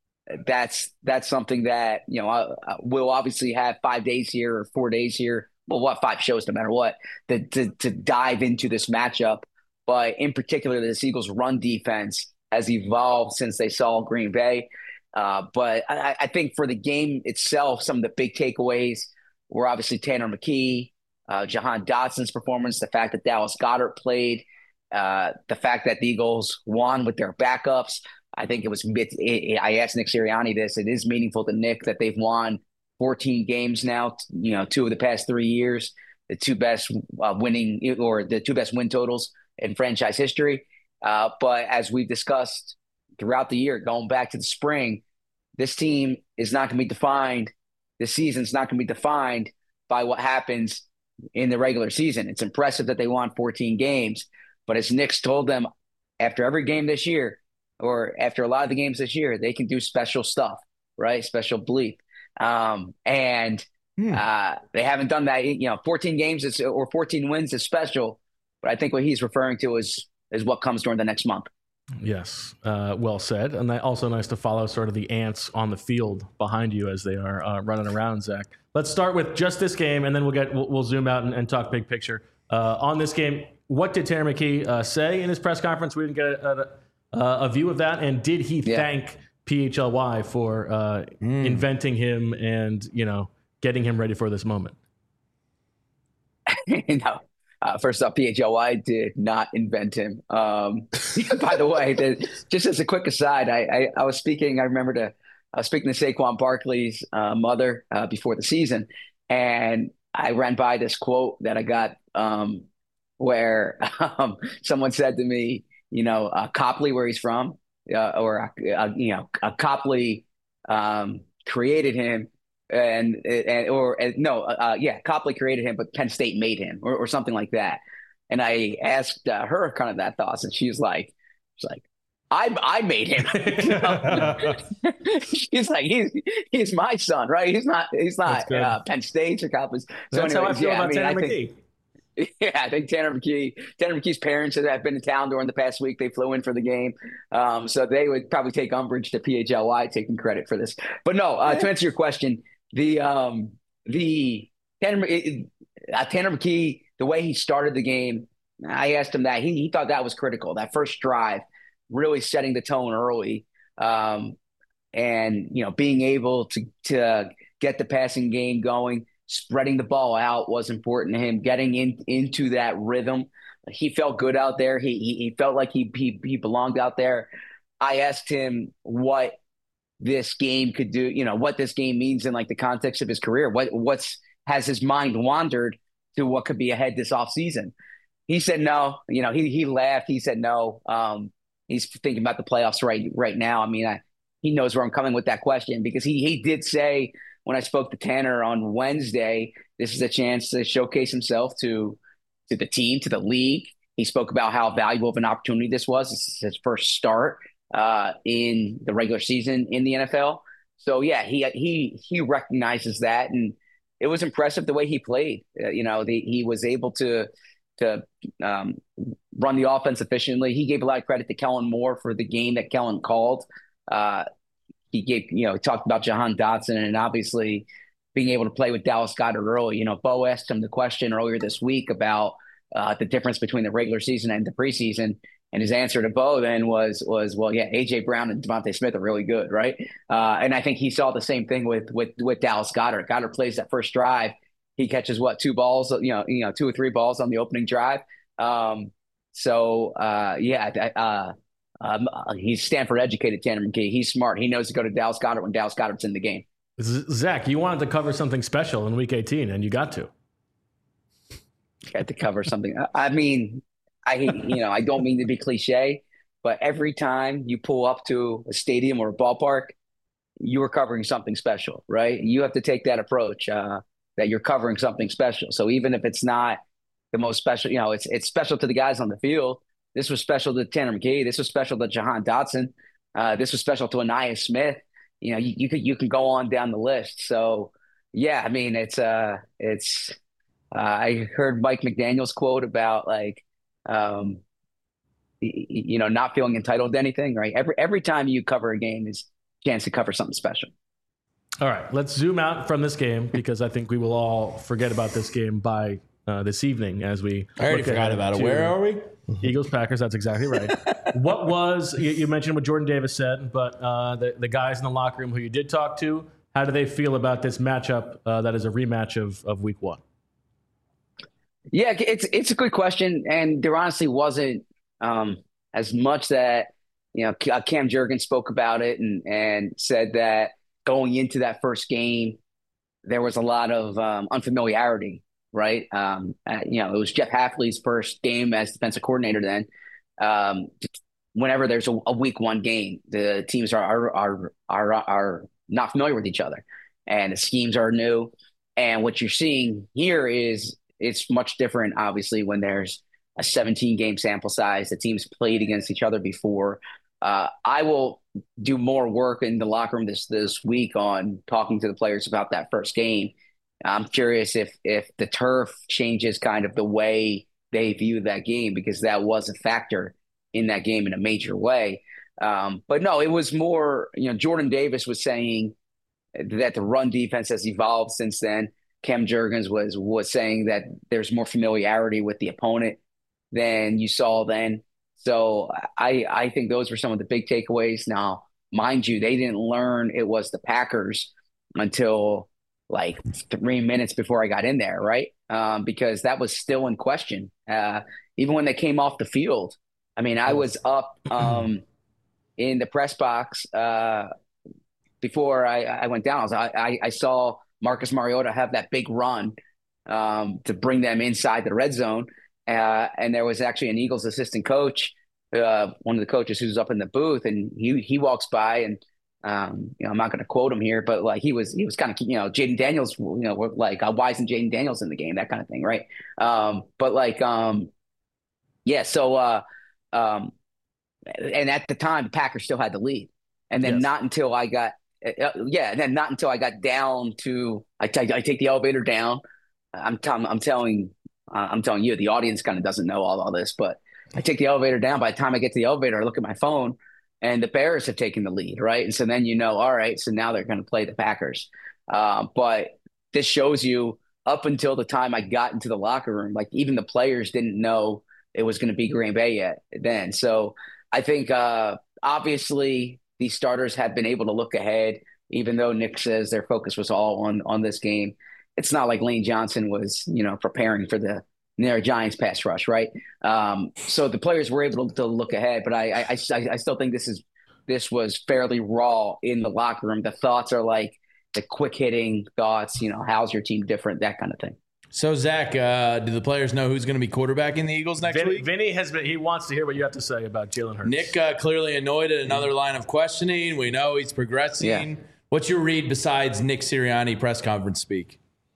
S15: that's that's something that, you know, I, I, we'll obviously have five days here or four days here. Well, what, five shows no matter what, to, to, to dive into this matchup. But in particular, this Eagles run defense has evolved since they saw Green Bay. Uh, but I, I think for the game itself, some of the big takeaways were obviously Tanner McKee, uh, Jahan Dotson's performance, the fact that Dallas Goedert played, uh, the fact that the Eagles won with their backups. I think it was it, – I asked Nick Sirianni this. It is meaningful to Nick that they've won fourteen games now, you know, two of the past three years, the two best uh, winning – or the two best win totals in franchise history. Uh, but as we've discussed throughout the year, going back to the spring, this team is not going to be defined. This season's not going to be defined by what happens in the regular season. It's impressive that they won fourteen games, but as Nick's told them after every game this year, or after a lot of the games this year, they can do special stuff, right? Special bleep. Um, and
S3: Hmm.
S15: uh, they haven't done that. You know, fourteen games is, or fourteen wins is special. But I think what he's referring to is is what comes during the next month.
S1: Yes, uh, well said. And that also nice to follow sort of the ants on the field behind you as they are uh, running around, Zach. Let's start with just this game, and then we'll get we'll, we'll zoom out and, and talk big picture. Uh, on this game, what did Tanner McKee uh, say in his press conference? We didn't get a, a, a view of that. And did he
S15: Yeah.
S1: thank P H L Y for uh,
S3: Mm.
S1: inventing him and, you know, getting him ready for this moment?
S15: no. Uh, first off, P H L Y did not invent him. Um, by the way, the, just as a quick aside, I, I, I was speaking, I remember to, I was speaking to Saquon Barkley's uh, mother uh, before the season, and I ran by this quote that I got um, where um, someone said to me, you know, uh, Copley, where he's from, uh, or, uh, you know, uh, Copley um, created him. And, and or uh, no, uh, yeah, Copley created him, but Penn State made him, or, or something like that. And I asked uh, her kind of that thoughts, and she was like, "She's like, I I made him. He's like he's he's my son, right? He's not he's not uh, Penn State or Cowboys. So
S1: That's
S15: anyways,
S1: how I feel
S15: yeah,
S1: about
S15: I mean,
S1: Tanner
S15: I
S1: McKee.
S15: think, Yeah, I think Tanner McKee, Tanner McKee's parents have been in town during the past week. They flew in for the game. Um, so they would probably take umbrage to P H L Y taking credit for this. But no, uh, to answer your question, the um, the Tanner, uh, Tanner McKee, the way he started the game, I asked him that. He, he thought that was critical. That first drive, really setting the tone early. Um, and, you know, being able to, to get the passing game going. Spreading the ball out was important to him, getting in, into that rhythm. He felt good out there. He, he he felt like he, he he belonged out there. I asked him what this game could do, you know, what this game means in like the context of his career. What what's has his mind wandered to what could be ahead this offseason? He said no. You know, he he laughed. He said no. Um, he's thinking about the playoffs right right now. I mean, I, he knows where I'm coming with that question because he he did say, when I spoke to Tanner on Wednesday, this is a chance to showcase himself to to the team, to the league. He spoke about how valuable of an opportunity this was. This is his first start uh, in the regular season in the N F L. So yeah, he he he recognizes that, and it was impressive the way he played. Uh, you know, the, he was able to to um, run the offense efficiently. He gave a lot of credit to Kellen Moore for the game that Kellen called. Uh, He gave, you know, he talked about Jahan Dotson and obviously being able to play with Dallas Goedert early. You know, Bo asked him the question earlier this week about uh, the difference between the regular season and the preseason. And his answer to Bo then was, was well, yeah, A J Brown and Devontae Smith are really good, right? Uh, and I think he saw the same thing with with with Dallas Goedert. Goedert plays that first drive. He catches, what, two balls, you know, you know, two or three balls on the opening drive. Um, so, uh, yeah, uh Um, he's Stanford educated, Tanner McKee. He's smart. He knows to go to Dallas Goedert when Dallas Goedert's in the game.
S1: Zach, you wanted to cover something special in week eighteen, and you got to.
S15: Got to cover something. I mean, I you know, I don't mean to be cliche, but every time you pull up to a stadium or a ballpark, you are covering something special, right? You have to take that approach uh, that you're covering something special. So even if it's not the most special, you know, it's it's special to the guys on the field. This was special to Tanner McKee. This was special to Jahan Dotson. Uh, this was special to Anaya Smith. You know, you, you could you can go on down the list. So, yeah, I mean, it's uh, it's. Uh, I heard Mike McDaniel's quote about like, um, you know, not feeling entitled to anything. Right. Every every time you cover a game is a chance to cover something special.
S1: All right, let's zoom out from this game because I think we will all forget about this game by uh, this evening as we.
S3: I already forgot about it. Where are we?
S1: Eagles, Packers, that's exactly right. What was, you, you mentioned what Jordan Davis said, but uh, the, the guys in the locker room who you did talk to, how do they feel about this matchup uh, that is a rematch of, of week one?
S15: Yeah, it's it's a good question. And there honestly wasn't um, as much that, you know, Cam Jurgens spoke about it and, and said that going into that first game, there was a lot of um, unfamiliarity. Right. Um, uh, you know, it was Jeff Hafley's first game as defensive coordinator then. Um, whenever there's a, a week one game, the teams are, are, are, are, are not familiar with each other and the schemes are new. And what you're seeing here is it's much different, obviously, when there's a seventeen game sample size. The teams played against each other before. Uh, I will do more work in the locker room this, this week on talking to the players about that first game. I'm curious if if the turf changes kind of the way they view that game because that was a factor in that game in a major way. Um, but no, it was more, you know, Jordan Davis was saying that the run defense has evolved since then. Cam Jurgens was was saying that there's more familiarity with the opponent than you saw then. So I I think those were some of the big takeaways. Now, mind you, they didn't learn it was the Packers until like three minutes before I got in there, right? Um, because that was still in question. Uh, even when they came off the field. I mean, I was up um, in the press box uh, before I, I went down. I, was, I, I saw Marcus Mariota have that big run um, to bring them inside the red zone. Uh, and there was actually an Eagles assistant coach, uh, one of the coaches who's up in the booth, and he he walks by and Um, you know, I'm not going to quote him here, but like he was, he was kind of, you know, Jaden Daniels, you know, like uh, why isn't Jaden Daniels in the game? That kind of thing, right? Um, but like, um, yeah. So, uh, um, and at the time, the Packers still had the lead. And then
S1: Yes.
S15: not until I got, uh, yeah, and then not until I got down to, I, t- I take the elevator down. I'm, t- I'm telling, uh, I'm telling you, the audience kind of doesn't know all, all this, but I take the elevator down. By the time I get to the elevator, I look at my phone, and the Bears have taken the lead, right? And so then you know, all right, so now they're going to play the Packers. Uh, but this shows you up until the time I got into the locker room, like even the players didn't know it was going to be Green Bay yet then. So I think uh, obviously these starters have been able to look ahead, even though Nick says their focus was all on on this game. It's not like Lane Johnson was, you know, preparing for the New York Giants pass rush, right? Um, so the players were able to, to look ahead, but I, I, I, I still think this is this was fairly raw in the locker room. The thoughts are like the quick hitting thoughts, you know, how's your team different, that kind of thing.
S3: So Zach, uh, do the players know who's going to be quarterbacking the Eagles next
S1: Vin,
S3: week?
S1: Vinny has been, he wants to hear what you have to say about Jalen Hurts.
S3: Nick uh, clearly annoyed at another line of questioning. We know he's progressing.
S15: Yeah.
S3: What's your read besides Nick Sirianni press conference speak?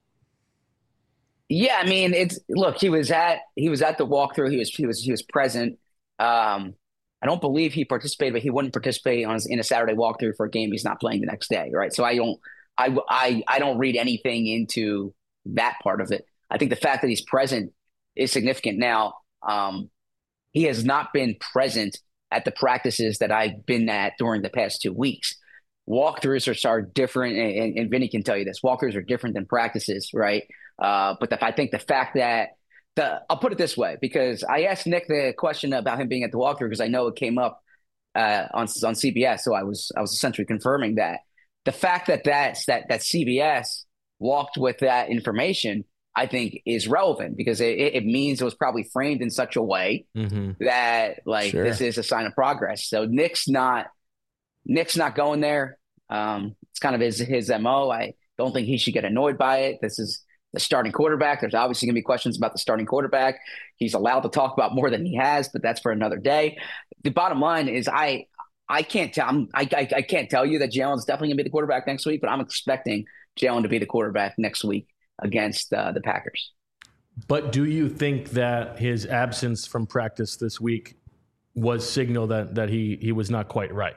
S15: Yeah, I mean, it's look. He was at he was at the walkthrough. He was he was he was present. Um, I don't believe he participated, but he wouldn't participate on his, in a Saturday walkthrough for a game he's not playing the next day, right? So I don't I I I don't read anything into that part of it. I think the fact that he's present is significant. Now, um, he has not been present at the practices that I've been at during the past two weeks. Walkthroughs are, are different, and, and Vinny can tell you this. Walkthroughs are different than practices, right? Uh, but the, I think the fact that the I'll put it this way, because I asked Nick the question about him being at the walkthrough because I know it came up uh, on on C B S, so I was I was essentially confirming that the fact that that's, that that C B S walked with that information, I think, is relevant because it, it means it was probably framed in such a way
S1: mm-hmm.
S15: that like
S3: Sure.
S15: this is a sign of progress. So Nick's not Nick's not going there. Um, it's kind of his his M O. I don't think he should get annoyed by it. This is the starting quarterback. There's obviously going to be questions about the starting quarterback. He's allowed to talk about more than he has, but that's for another day. The bottom line is I I can't tell I'm, I, I I can't tell you that Jalen's definitely going to be the quarterback next week, but I'm expecting Jalen to be the quarterback next week against uh, the Packers.
S1: But do you think that his absence from practice this week was signal that that he he was not quite right?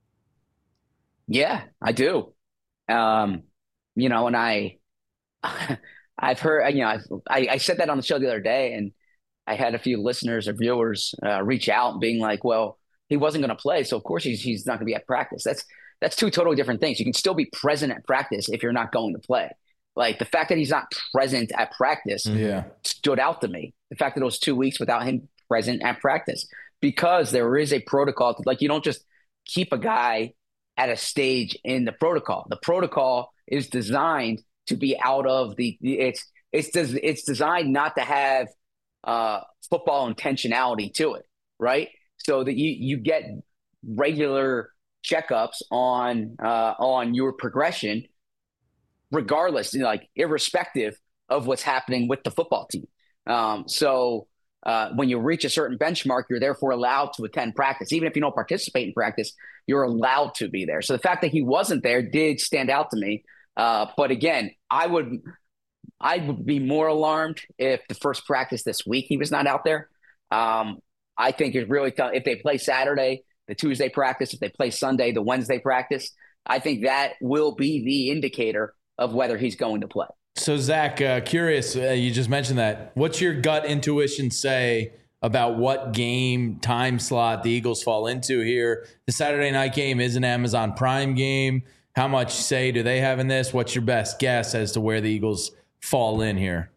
S15: Yeah, I do. Um, you know, and I, I've heard, you know, I've, I, I said that on the show the other day, and I had a few listeners or viewers uh, reach out being like, well, he wasn't going to play, so of course he's, he's not going to be at practice. That's, that's two totally different things. You can still be present at practice if you're not going to play. Like the fact that he's not present at practice
S3: Yeah.
S15: stood out to me. The fact that it was two weeks without him present at practice, because there is a protocol. To, like you don't just keep a guy at a stage in the protocol. The protocol is designed to be out of the it's it's des, it's designed not to have uh, football intentionality to it, right? So that you you get regular checkups on uh, on your progression, regardless, you know, like irrespective of what's happening with the football team. Um, so uh, when you reach a certain benchmark, you're therefore allowed to attend practice. Even if you don't participate in practice, you're allowed to be there. So the fact that he wasn't there did stand out to me. Uh, but again, I would I would be more alarmed if the first practice this week he was not out there. Um, I think it really t- if they play Saturday, the Tuesday practice, if they play Sunday, the Wednesday practice, I think that will be the indicator of whether he's going to play.
S3: So, Zach, uh, curious, uh, you just mentioned that. What's your gut intuition say about what game time slot the Eagles fall into here? The Saturday night game is an Amazon Prime game. How much say do they have in this? What's your best guess as to where the Eagles fall in here?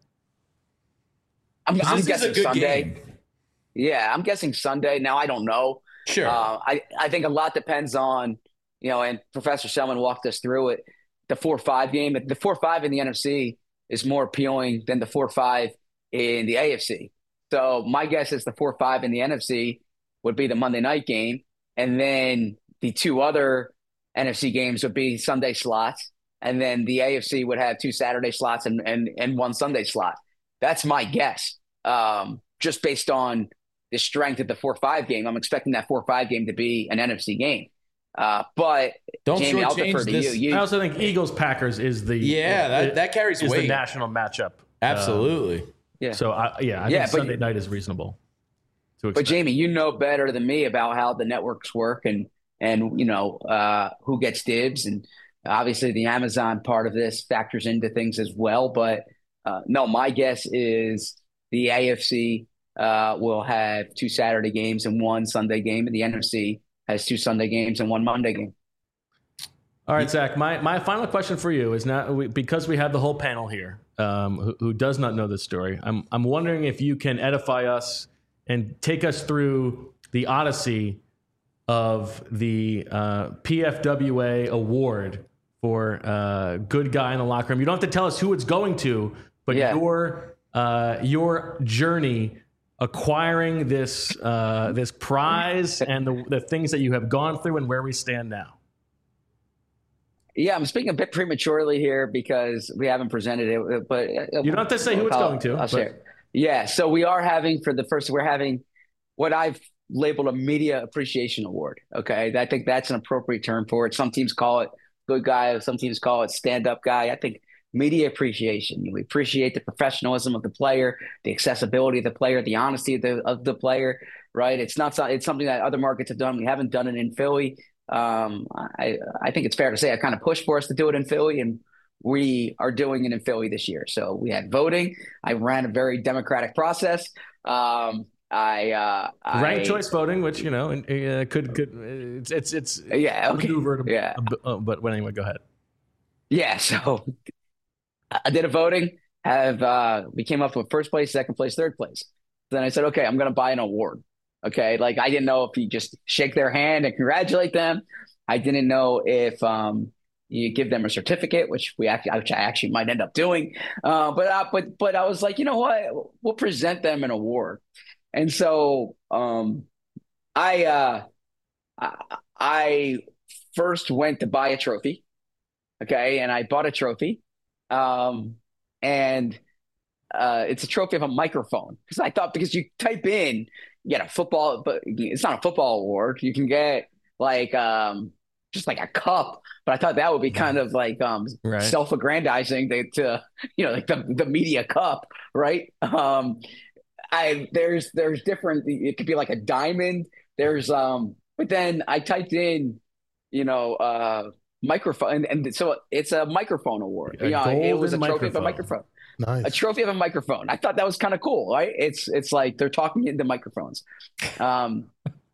S15: I'm, I'm
S3: this
S15: guessing
S3: is a good
S15: Sunday.
S3: game.
S15: Yeah, I'm guessing Sunday. Now, I don't know.
S3: Sure.
S15: Uh, I, I think a lot depends on, you know, and Professor Selman walked us through it. The four five game, the four five in the N F C is more appealing than the four five in the A F C. So my guess is the four five in the N F C would be the Monday night game. And then the two other N F C games would be Sunday slots. And then the A F C would have two Saturday slots and, and, and one Sunday slot. That's my guess. Um, just based on the strength of the four five game, I'm expecting that four five game to be an N F C game. Uh, but
S3: Don't
S15: Jamie, I'll
S3: shortchange
S15: defer to
S3: this.
S15: you. you.
S1: I also think Eagles Packers is the
S3: Yeah, that-
S1: it-
S3: that carries
S1: is
S3: weight.
S1: the national matchup.
S3: Absolutely.
S1: Um, so I, yeah, I
S15: Yeah,
S1: think
S15: but
S1: Sunday
S15: you-
S1: night is reasonable. to
S15: But
S1: expect.
S15: Jamie, you know better than me about how the networks work and and you know uh, who gets dibs, and obviously the Amazon part of this factors into things as well. But uh, no, my guess is the A F C uh, will have two Saturday games and one Sunday game, and the N F C has two Sunday games and one Monday game.
S1: All right, Zach, my, my final question for you is now, because we have the whole panel here um, who, who does not know this story, I'm, I'm wondering if you can edify us and take us through the odyssey of the uh, P F W A award for uh, good guy in the locker room. You don't have to tell us who it's going to, but
S15: Yeah.
S1: your uh, your journey acquiring this uh, this prize and the, the things that you have gone through and where we stand now.
S15: Yeah, I'm speaking a bit prematurely here because we haven't presented it, but
S1: You don't have to say who it's
S15: I'll-
S1: going to.
S15: I'll
S1: but-
S15: share. Yeah, so we are having for the first, we're having what I've labeled a media appreciation award. Okay, I think that's an appropriate term for it. Some teams call it good guy, some teams call it stand-up guy. I think media appreciation. We appreciate the professionalism of the player, the accessibility of the player, the honesty of the of the player. Right? It's not. It's something that other markets have done. We haven't done it in Philly. Um, I I think it's fair to say I kind of pushed for us to do it in Philly, and we are doing it in Philly this year. So we had voting. I ran a very democratic process. Um, I uh,
S1: Ranked
S15: I,
S1: choice voting, which you know uh, could could it's it's it's
S15: Yeah, okay.
S1: maneuvered.
S15: Yeah.
S1: a bit, uh, but but anyway, go ahead.
S15: Yeah, so I did a voting. Have uh, we came up with first place, second place, third place. Then I said, okay, I'm going to buy an award. Okay, like I didn't know if you just shake their hand and congratulate them. I didn't know if um, you give them a certificate, which we actually, which I actually might end up doing. Uh, but uh, but but I was like, you know what? We'll present them an award. And so um, I uh, I I first went to buy a trophy. Okay, and I bought a trophy, um, and uh, it's a trophy of a microphone because I thought because you type in. You get a football, but it's not a football award. You can get like um, just like a cup, but I thought that would be kind of like um,
S1: Right.
S15: self-aggrandizing to, to you know like the, the media cup, right? Um, I there's there's different. It could be like a diamond. There's um, but then I typed in, you know, uh, microphone, and, and so it's a microphone award.
S1: A
S15: Yeah, it was a
S1: golden
S15: trophy of a
S1: microphone.
S15: microphone.
S2: Nice.
S15: A trophy of a microphone. I thought that was kind of cool, right? It's it's like they're talking into microphones. Um,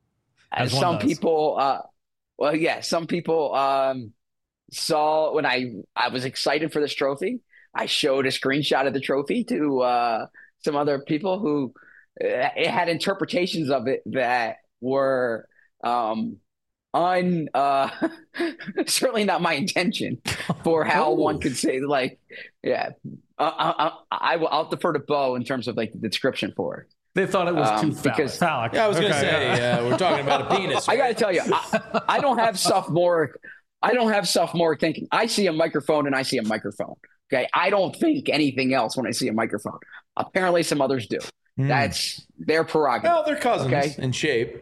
S4: As one
S15: some
S4: does.
S15: people, uh, well, yeah, some people um, saw when I I was excited for this trophy. I showed a screenshot of the trophy to uh, some other people who uh, it had interpretations of it that were um, un uh, certainly not my intention for how one could say like, yeah. Uh, I, I, I will. I'll defer to Bo in terms of like the description for it.
S1: They thought it was
S15: Um,
S1: too phallic.
S15: because-
S4: Phallic.
S3: Yeah, I was going to
S4: Okay.
S3: say, yeah, we're talking about a penis.
S15: I got to tell you, I, I don't have sophomoric. I don't have sophomoric thinking. I see a microphone and I see a microphone. Okay, I don't think anything else when I see a microphone. Apparently, some others do. That's their prerogative.
S3: Well, they're cousins
S15: Okay.
S3: in shape.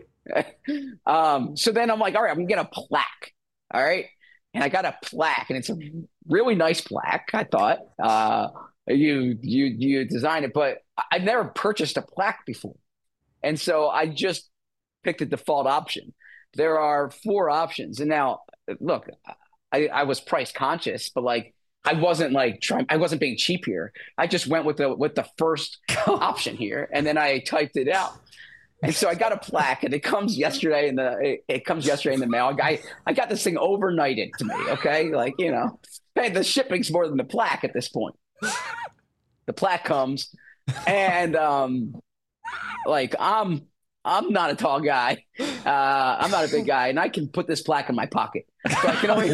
S15: Um, so then I'm like, all right, I'm gonna get a plaque. All right. And I got a plaque, and it's a really nice plaque, I thought. Uh, you you you designed it, but I've never purchased a plaque before. And so I just picked the default option. There are four options. And now look, I, I was price conscious, but like I wasn't like trying I wasn't being cheap here. I just went with the with the first option here, and then I typed it out. And so I got a plaque, and it comes yesterday in the it, it comes yesterday in the mail. I I got this thing overnighted to me. Okay, like you know, hey, the shipping's more than the plaque at this point. The plaque comes, and um, like I'm I'm not a tall guy. Uh, I'm not a big guy, and I can put this plaque in my pocket. So I can only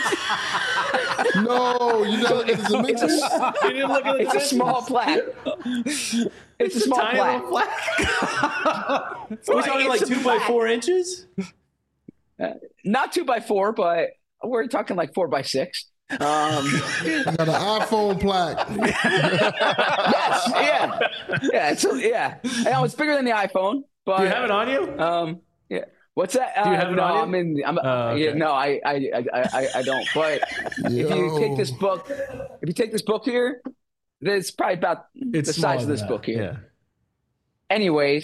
S2: What? No, you know it's a
S15: It's a,
S1: You didn't look at the
S15: it's a small plaque. It's a small
S1: tiny
S15: plaque.
S1: little plaque.
S3: We're talking like
S15: It's a
S3: two by
S15: plaque.
S3: four inches?
S15: Not two by four, but we're talking like four by six. Um,
S2: I got an iPhone plaque.
S15: yes, yeah, yeah, it's yeah. I know it's bigger than the iPhone, but
S1: Do you have it on you?
S15: Um, yeah. What's that?
S1: Do you
S15: Uh,
S1: have it
S15: no,
S1: on you?
S15: I'm in. I'm,
S1: Oh, okay.
S15: yeah, no, I, I, I, I, I don't. But if you
S2: Yo.
S15: take this book, if you take this book here, it's probably about
S1: It's
S15: the size of
S1: smaller
S15: this
S1: than
S15: book
S1: that.
S15: here.
S1: Yeah.
S15: Anyways,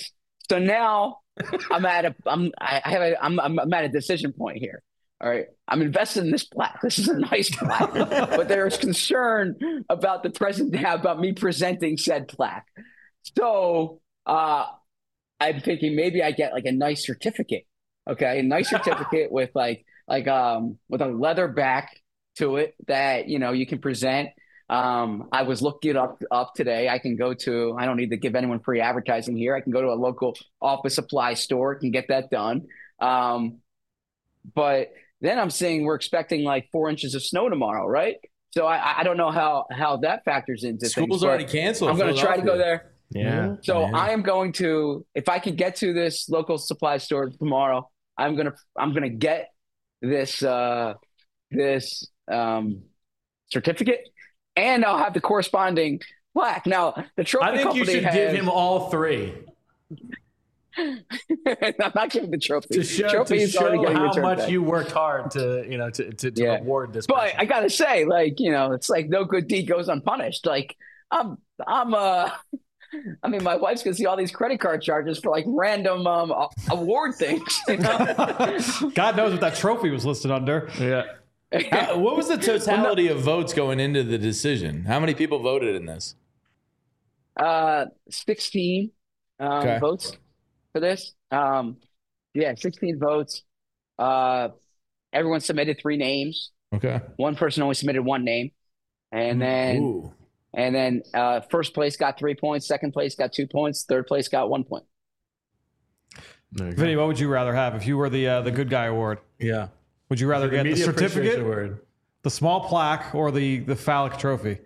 S15: So now I'm at a I'm I have a I'm I'm at a decision point here. All right. I'm invested in this plaque. This is a nice plaque. But there's concern about the present about me presenting said plaque. So uh I'm thinking maybe I get like a nice certificate. Okay, a nice certificate with like like um with a leather back to it that you know you can present. Um, I was looking it up up today. I can go to. I don't need to give anyone free advertising here. I can go to a local office supply store, can get that done. Um, but then I'm seeing we're expecting like four inches of snow tomorrow, right? So I I don't know how how that factors into
S3: School's
S15: things.
S3: already canceled.
S15: I'm going to try to go there.
S1: Yeah.
S15: So
S1: man.
S15: I am going to, if I can get to this local supply store tomorrow, I'm gonna I'm gonna get this uh, this um, certificate, and I'll have the corresponding plaque. Now the trophy
S1: I think
S15: company
S1: you should
S15: has,
S1: give him all three.
S15: I'm not giving the trophy.
S1: To show,
S15: trophy
S1: to
S15: is already
S1: show
S15: getting
S1: how
S15: returned
S1: much
S15: back.
S1: you worked hard to, you know, to, to, to
S15: Yeah.
S1: reward this.
S15: But
S1: person.
S15: I gotta say, like you know, it's like no good deed goes unpunished. Like I'm I'm uh. I mean, my wife's gonna see all these credit card charges for like random um, a- award things. You know?
S4: God knows what that trophy was listed under.
S1: Yeah.
S3: How, what was the totality of votes going into the decision? How many people voted in this?
S15: Uh, sixteen um,
S3: Okay.
S15: votes for this. Um, yeah, sixteen votes. Uh, everyone submitted three names.
S3: Okay.
S15: One person only submitted one name, and then
S3: Ooh.
S15: and then uh, first place got three points. Second place got two points. Third place got one point.
S4: Vinny, what would you rather have if you were the uh, the good guy award?
S1: Yeah.
S4: Would you rather
S1: The
S4: get the
S1: Media Appreciation
S4: certificate,
S1: Award.
S4: the small plaque, or the the phallic trophy?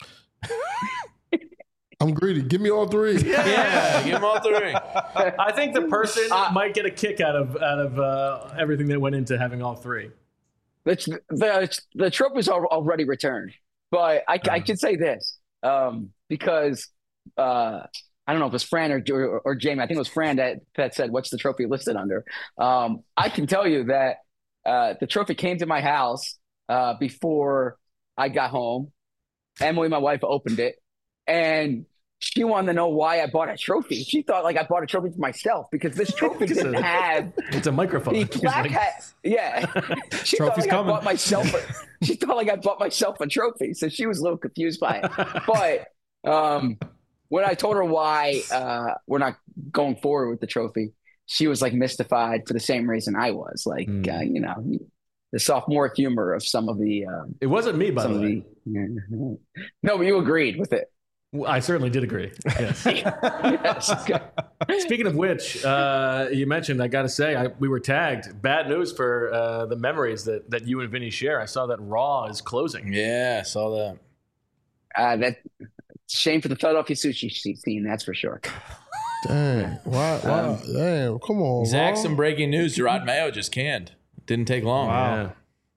S2: I'm greedy. Give me all three.
S3: Yeah, give them all three.
S1: I think the person
S15: Uh,
S1: might get a kick out of out of uh, everything that went into having all three.
S15: It's, the the trophy's al- already returned, but I, I can say this um, because uh, I don't know if it was Fran or, or or Jamie. I think it was Fran that, that said, "What's the trophy listed under?" Um, I can tell you that uh, the trophy came to my house uh, before I got home. Emily, my wife, opened it, and she wanted to know why I bought a trophy. She thought like I bought a trophy for myself because this trophy didn't have
S1: It's a microphone.
S15: the
S1: He's
S15: plaque
S1: like-
S15: had, yeah. She thought
S4: Trophy's
S15: like
S4: coming.
S15: I bought myself. A, she thought like I bought myself a trophy, so she was a little confused by it. But um, when I told her why uh, we're not going forward with the trophy, she was like mystified for the same reason I was. Like
S1: Mm.
S15: uh, you know, the sophomore humor of some of the. Um,
S1: It wasn't me, by
S15: some
S1: the
S15: of
S1: way.
S15: the. No, but you agreed with it.
S1: Well, I certainly did agree. Yes.
S15: Yes.
S1: Speaking of which, uh, you mentioned, I got to say, I, we were tagged. Bad news for uh, the memories that, that you and Vinny share. I saw that Raw is closing.
S3: Yeah, I saw that.
S15: Uh, that shame for the Philadelphia sushi scene, that's for sure.
S2: Dang. Why? Why?
S15: Um,
S2: Damn. Come on.
S3: Zach,
S2: bro.
S3: some breaking news. Gerard Mayo just canned. Didn't take long.
S1: Yeah.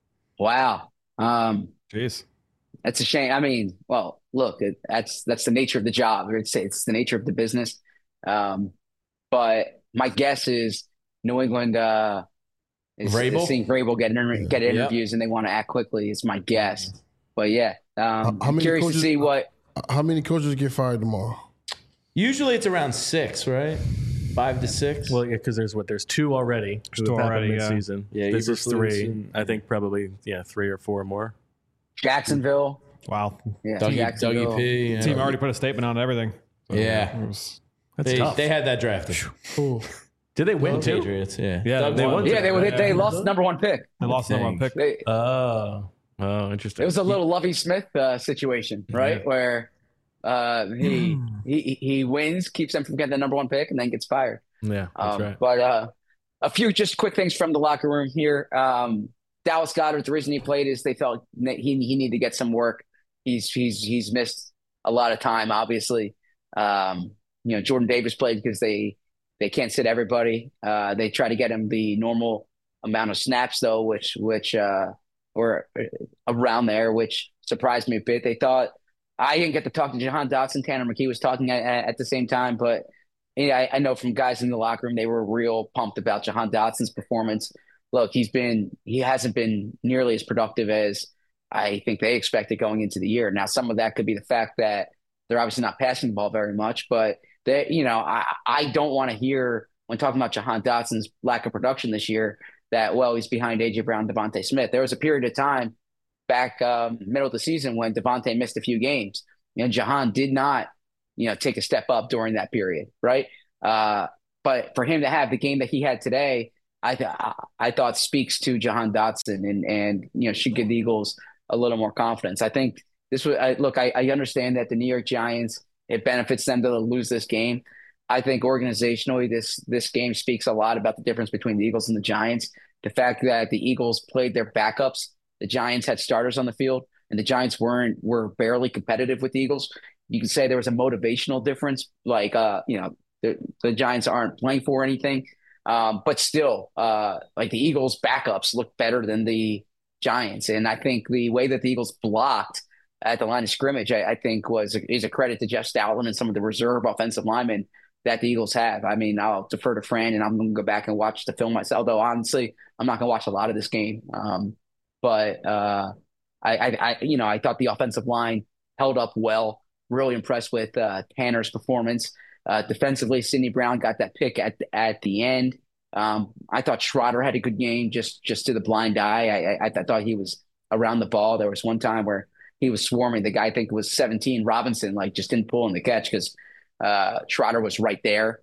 S15: Wow. Um,
S4: Jeez.
S15: That's a shame. I mean, well, look, it, that's that's the nature of the job. It's it's the nature of the business. Um, but my guess is New England uh, is,
S3: Vrabel?
S15: is seeing Vrabel get inter- get
S3: Yep.
S15: interviews, and they want to act quickly. Is my guess. But yeah, um,
S2: How
S15: I'm
S2: many
S15: curious
S2: coaches-
S15: to see what.
S2: How many coaches get fired tomorrow?
S3: Usually it's around six, right? Five to six.
S1: Well, yeah, because there's what? There's two already. who
S4: Two
S1: have happened
S4: already, yeah.
S1: mid-season.
S3: Yeah,
S1: This is
S3: Eberflus
S1: three.
S3: and-
S1: I think probably, yeah, three or four more.
S15: Jacksonville.
S4: Wow.
S15: Yeah,
S3: Dougie,
S15: Jacksonville.
S3: Dougie P. yeah.
S4: Team already put a statement on everything. So
S3: Yeah.
S4: it was-
S1: That's
S3: They,
S1: tough.
S3: they had that drafted.
S2: Ooh.
S1: Did they win, too?
S3: Patriots, yeah.
S4: Yeah,
S3: Doug
S4: they
S3: won.
S4: won.
S15: Yeah, they
S4: Yeah.
S15: they lost the number one pick.
S4: They lost the number one
S3: Dang.
S4: pick.
S15: They,
S1: Oh. Oh, interesting.
S15: It was a little Lovey Smith uh, situation, right?
S1: Yeah.
S15: Where uh, he, he he wins, keeps them from getting the number one pick, and then gets fired.
S1: Yeah, that's
S15: Um,
S1: right.
S15: But uh, a few just quick things from the locker room here. Um, Dallas Goedert, the reason he played is they felt that he he needed to get some work. He's he's he's missed a lot of time, obviously. Um, you know, Jordan Davis played because they they can't sit everybody. Uh, they try to get him the normal amount of snaps though, which which uh, were around there, which surprised me a bit. They thought I didn't get to talk to Jahan Dotson. Tanner McKee was talking at, at the same time, but yeah, I, I know from guys in the locker room they were real pumped about Jahan Dotson's performance. Look, he's been he hasn't been nearly as productive as I think they expected going into the year. Now, some of that could be the fact that they're obviously not passing the ball very much, but That, you know, I, I don't want to hear when talking about Jahan Dotson's lack of production this year that, well, he's behind A J Brown, Devontae Smith. There was a period of time back um, middle of the season when Devontae missed a few games, and Jahan did not, you know, take a step up during that period, right? Uh, but for him to have the game that he had today, I th- I thought speaks to Jahan Dotson and and you know should give the Eagles a little more confidence. I think this was I, look. I, I understand that the New York Giants, it benefits them to lose this game. I think organizationally, this this game speaks a lot about the difference between the Eagles and the Giants. The fact that the Eagles played their backups, the Giants had starters on the field, and the Giants weren't were barely competitive with the Eagles. You can say there was a motivational difference, like uh, you know the, the Giants aren't playing for anything, um, but still, uh, like the Eagles' backups look better than the Giants, and I think the way that the Eagles blocked at the line of scrimmage, I, I think was is a credit to Jeff Stoutland and some of the reserve offensive linemen that the Eagles have. I mean, I'll defer to Fran, and I'm going to go back and watch the film myself. Although honestly, I'm not going to watch a lot of this game. Um, but uh, I, I, I, you know, I thought the offensive line held up well. Really impressed with uh, Tanner's performance uh, defensively. Sidney Brown got that pick at at the end. Um, I thought Schroeder had a good game, just just to the blind eye. I, I, I thought he was around the ball. There was one time where he was swarming. The guy, I think, was seventeen. Robinson, like, just didn't pull in the catch because uh, Schroeder was right there.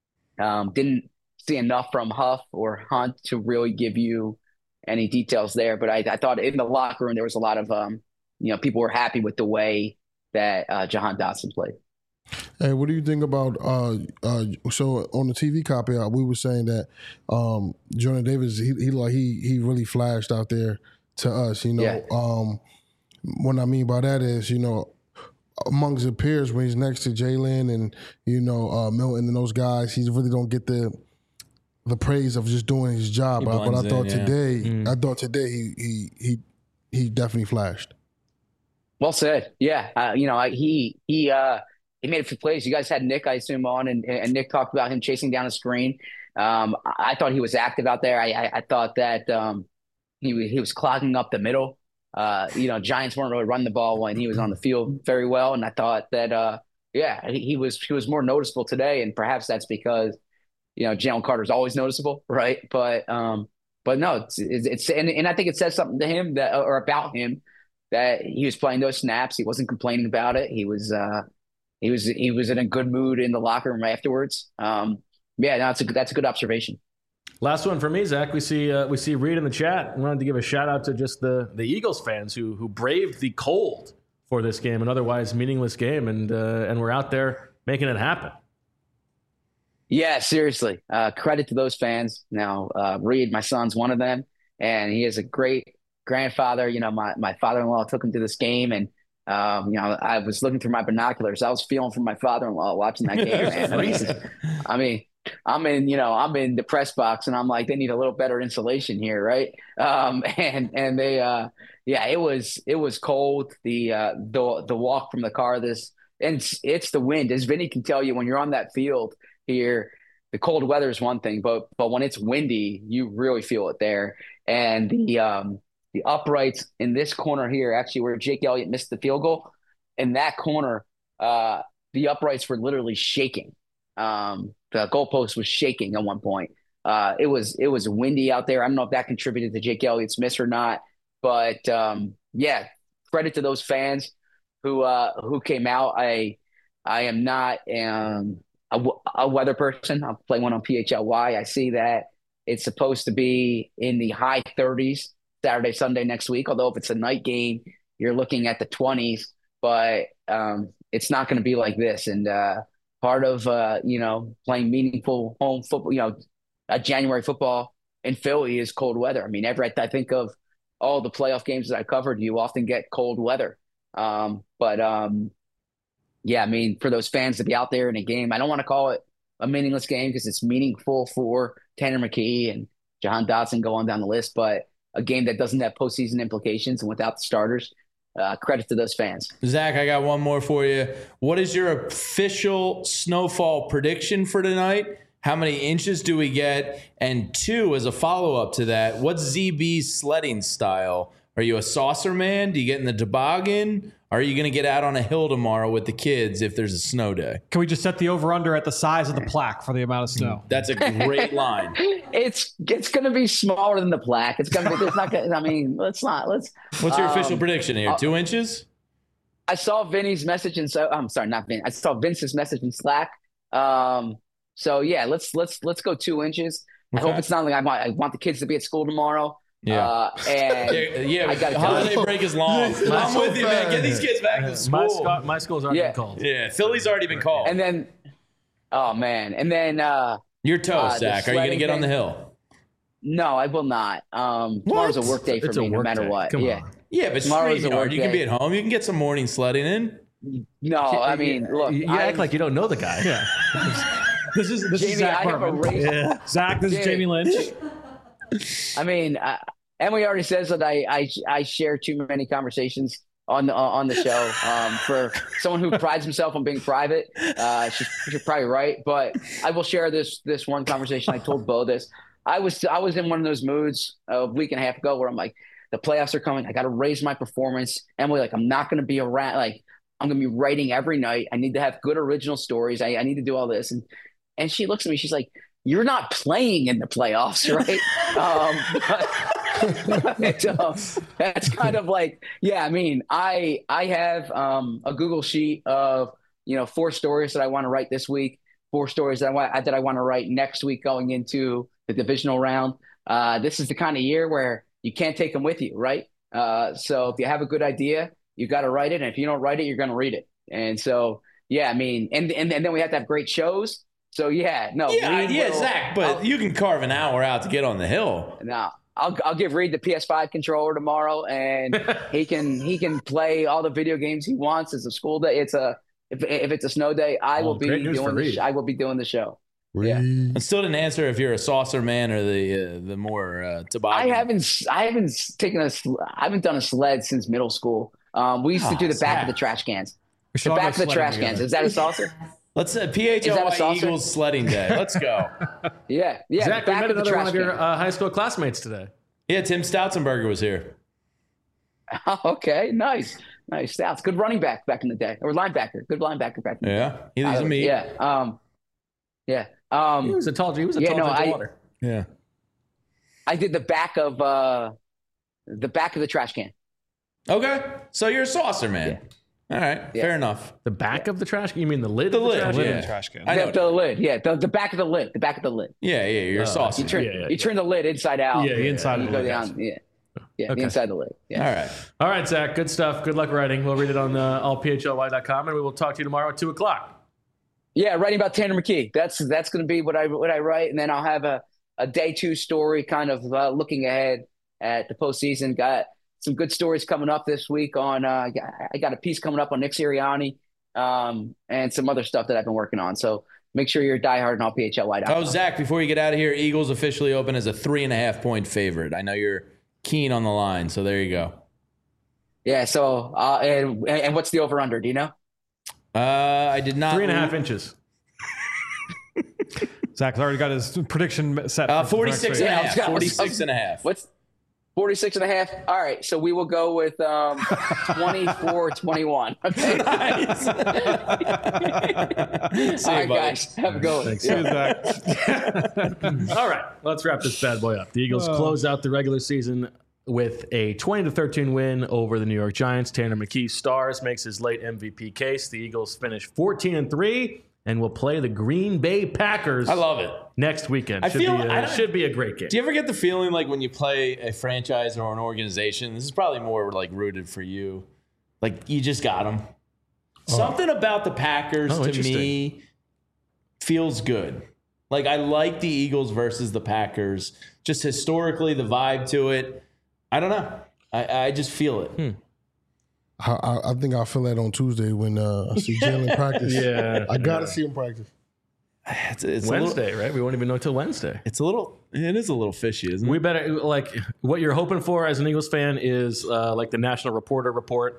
S15: Um, didn't see enough from Huff or Hunt to really give you any details there. But I, I thought in the locker room there was a lot of, um, you know, people were happy with the way that uh, Jahan Dotson played.
S2: Hey, what do you think about uh, uh, so on the T V copy? Uh, we were saying that um, Jordan Davis, he, he like he he really flashed out there to us. You know,
S15: Yeah.
S2: um, what I mean by that is, you know, amongst the peers when he's next to Jalen and you know uh, Milton and those guys, he really don't get the the praise of just doing his job.
S3: He
S2: But, but I
S3: blends
S2: thought
S3: in, yeah.
S2: today,
S3: Mm.
S2: I thought today he he he he definitely flashed.
S15: Well said. Yeah. Uh, you know, I, he he uh, he made a few plays. You guys had Nick, I assume, on, and, and Nick talked about him chasing down a screen. Um, I, I thought he was active out there. I, I, I thought that um, he was- he was clogging up the middle. Uh, you know, Giants weren't really running the ball when he was on the field very well, and I thought that uh, yeah, he, he was he was more noticeable today, and perhaps that's because you know Jalen Carter's always noticeable, right? But um, but no, it's it's, it's and, and I think it says something to him that or about him that he was playing those snaps. He wasn't complaining about it. He was uh, he was he was in a good mood in the locker room afterwards. Um, yeah, no, that's a that's a good observation.
S1: Last one for me, Zach. We see uh, we see Reed in the chat. I wanted to give a shout out to just the the Eagles fans who who braved the cold for this game, an otherwise meaningless game, and uh, and we're out there making it happen.
S15: Yeah, seriously. Uh, credit to those fans. Now, uh, Reed, my son's one of them, and he is a great grandfather. You know, my, my father-in-law took him to this game, and, um, you know, I was looking through my binoculars. I was feeling for my father-in-law watching that game, man. I mean, I mean, I'm in, you know, I'm in the press box, and I'm like, they need a little better insulation here, right? Um, and and they, uh, yeah, it was it was cold. The uh, the the walk from the car, this, and it's, it's the wind, as Vinny can tell you, when you're on that field here, the cold weather is one thing, but but when it's windy, you really feel it there. And the um, the uprights in this corner here, actually where Jake Elliott missed the field goal, in that corner, uh, the uprights were literally shaking. Um, the goalpost was shaking at one point. Uh, it was it was windy out there. I don't know if that contributed to Jake Elliott's miss or not, but um, yeah, credit to those fans who uh, who came out. I I am not um, a, a weather person. I'll play one on P H L Y. I see that it's supposed to be in the high thirties Saturday, Sunday next week. Although if it's a night game, you're looking at the twenties. But um, it's not going to be like this. And uh, part of uh, you know playing meaningful home football, you know, a January football in Philly is cold weather. I mean, every I think of all the playoff games that I covered, you often get cold weather. Um, but um, yeah, I mean, for those fans to be out there in a game, I don't want to call it a meaningless game because it's meaningful for Tanner McKee and Jahan Dotson, go on down the list, but a game that doesn't have postseason implications and without the starters. Uh, credit to those fans.
S3: Zach, I got one more for you. What is your official snowfall prediction for tonight? How many inches do we get? And two, as a follow-up to that, what's Z B's sledding style Are you a saucer man? Do you get in the toboggan? Are you going to get out on a hill tomorrow with the kids if there's a snow day?
S4: Can we just set the over-under at the size of the plaque for the amount of snow?
S3: That's a great line.
S15: It's it's going to be smaller than the plaque. It's going to be. It's not. Gonna, I mean, let's not. Let's.
S3: What's your
S15: um,
S3: official prediction here? Two inches?
S15: I saw Vinny's message in. So I'm sorry, not Vin. I saw Vince's message in Slack. Um. So yeah, let's let's let's go two inches.
S3: Okay.
S15: I hope it's not like I want. I want the kids to be at school tomorrow.
S3: Yeah.
S15: Uh, and
S3: yeah, yeah
S15: I got
S3: holiday break is long. I'm with you, man. Get these kids back to
S1: My,
S3: school.
S1: sco- my school's already
S15: Yeah.
S1: been called.
S3: Yeah, Philly's already been called.
S15: And then, oh man, and then uh,
S3: You're toast,
S15: uh, the
S3: Zach. Are you going to
S15: sledding
S3: get on the
S15: thing-
S3: hill?
S15: No, I will not. Um, tomorrow's a work day for
S1: It's a
S15: me, no
S1: work
S15: matter
S1: day.
S15: what.
S1: Come
S15: yeah.
S1: on.
S3: Yeah, but
S15: Tomorrow's a
S3: StreamYard,
S15: work
S3: you can
S15: day.
S3: be at home. You can get some morning sledding in.
S15: No, I mean, look,
S1: you, you
S15: I-
S1: act like you don't know the guy.
S4: Yeah. This is this
S15: Jamie,
S4: is Zach
S15: I have a
S4: Hartman.
S15: race-
S4: Yeah. Zach, this is
S15: Jamie.
S4: Jamie Lynch.
S15: I mean, uh, Emily already says that I, I I share too many conversations on the on the show. Um, for someone who prides himself on being private, uh, she's, she's probably right. But I will share this this one conversation. I told Bo this. I was I was in one of those moods a week and a half ago where I'm like, the playoffs are coming. I got to raise my performance. Emily, like, I'm not going to be around. Like, I'm going to be writing every night. I need to have good original stories. I, I need to do all this. And and she looks at me. She's like, you're not playing in the playoffs, right? um, but, but, um, that's kind of like, yeah. I mean, I I have um, a Google sheet of you know four stories that I want to write this week, four stories that I want that I want to write next week going into the divisional round. Uh, this is the kind of year where you can't take them with you, right? Uh, so if you have a good idea, you got to write it, and if you don't write it, you're going to read it. And so, yeah, I mean, and and, and then we have to have great shows. So yeah, no,
S3: Yeah,
S15: Reed
S3: yeah,
S15: will-
S3: Zach, but
S15: I'll-
S3: you can carve an hour out to get on the hill.
S15: No, I'll I'll give Reed the P S five controller tomorrow, and he can he can play all the video games he wants. It's a school day. It's a if if it's a snow day, I
S1: Oh,
S15: will be
S1: great news for
S15: doing the
S1: Reed.
S15: sh- I will be doing the show.
S2: Reed.
S3: I still didn't answer if you're a saucer man or the uh, the more uh,
S15: I
S3: toboggan.
S15: haven't I haven't taken a sl- I haven't done a sled since middle school. Um, we used to
S3: Oh,
S15: do the back
S3: Zach.
S15: of the trash cans.
S4: We should
S15: The
S4: all go
S15: back of the
S4: sledding
S15: trash
S4: together.
S15: cans. Is that a saucer?
S3: Let's uh, P H
S15: Is
S3: L
S15: that a
S3: Y
S15: saucer?
S3: Eagles sledding day. Let's go.
S15: Yeah, yeah.
S1: Zach,
S15: the
S1: we
S15: back
S1: met
S15: of the
S1: another
S15: trash
S1: one of your
S15: can.
S1: uh, high school classmates today.
S3: Yeah, Tim Stoutenberger was here.
S15: Okay, nice, nice. Stouts, good running back back in the day, or linebacker, good linebacker back in the day.
S3: Yeah, he leaves a meat.
S15: Yeah, um, yeah. Um,
S1: He was a tall. He was a
S15: yeah,
S1: tall
S15: no,
S1: drink of
S15: I-
S1: water.
S3: Yeah.
S15: I did the back of uh, the back of the trash can.
S3: Okay, so you're a saucer man. All right,
S15: Yeah.
S3: fair enough.
S1: The back of the trash. You mean the lid?
S3: The
S1: of the
S3: lid,
S1: trash?
S3: yeah.
S4: Lid in the trash can.
S3: I know.
S15: The, the lid, yeah, the, the back of the lid, the back of the lid.
S3: Yeah, yeah, you're a
S1: Oh,
S3: saucer.
S15: You turn,
S1: Yeah, yeah,
S15: you turn the lid inside out.
S4: Yeah, the inside
S15: you
S4: of
S15: go
S4: the lid.
S15: down. Yeah, yeah,
S1: Okay.
S15: the inside of the lid. Yeah.
S3: All right.
S1: All right, Zach. Good stuff. Good luck writing. We'll read it on uh, all P H L Y dot com, and we will talk to you tomorrow at two o'clock.
S15: Yeah, writing about Tanner McKee. That's that's going to be what I what I write, and then I'll have a, a day two story, kind of uh, looking ahead at the postseason. Got some good stories coming up this week on. Uh, I got a piece coming up on Nick Sirianni, um, and some other stuff that I've been working on. So make sure you're diehard on all P H L Y dot com.
S3: Oh, Zach, before you get out of here, Eagles officially open as a three and a half point favorite. I know you're keen on the line, so there you go.
S15: Yeah. So uh, and and what's the over under? Do you know?
S3: Uh, I did not.
S1: Three and a half inches.
S4: Zach's already got his prediction set.
S3: Uh,
S4: for the next
S3: forty-six
S4: week.
S3: and a
S15: Yeah,
S3: half.
S15: let's go.
S3: forty-six and a half.
S15: What's forty-six and a half? All right. So we will go with um, twenty-four twenty-one. Okay.
S3: Nice. See
S15: All
S3: you,
S15: right,
S3: buddy.
S15: guys. Have a good one.
S1: Thanks.
S15: Yeah.
S1: All right, let's wrap this bad boy up. The Eagles close out the regular season with a twenty to thirteen win over the New York Giants. Tanner McKee stars, makes his late M V P case. The Eagles finish fourteen and three and will play the Green Bay Packers.
S3: I love it.
S1: Next weekend.
S3: I
S1: should
S3: feel-
S1: be
S3: I
S1: a,
S3: don't-
S1: should be a great game.
S3: Do you ever get the feeling like when you play a franchise or an organization, this is probably more like rooted for you, like you just got them. Something about the Packers
S1: Oh,
S3: to
S1: interesting.
S3: me feels good. Like I like the Eagles versus the Packers. Just historically, the vibe to it. I don't know. I, I just feel it.
S1: Hmm.
S2: I, I, I think I'll feel that on Tuesday when uh, I see Jalen practice.
S1: Yeah.
S2: I gotta see him practice.
S3: It's, it's a little-
S1: Wednesday, right? We won't even know till Wednesday.
S3: it's a little. It is a little fishy, isn't it?
S1: We better like what you're hoping for as an Eagles fan is uh, like the National Reporter report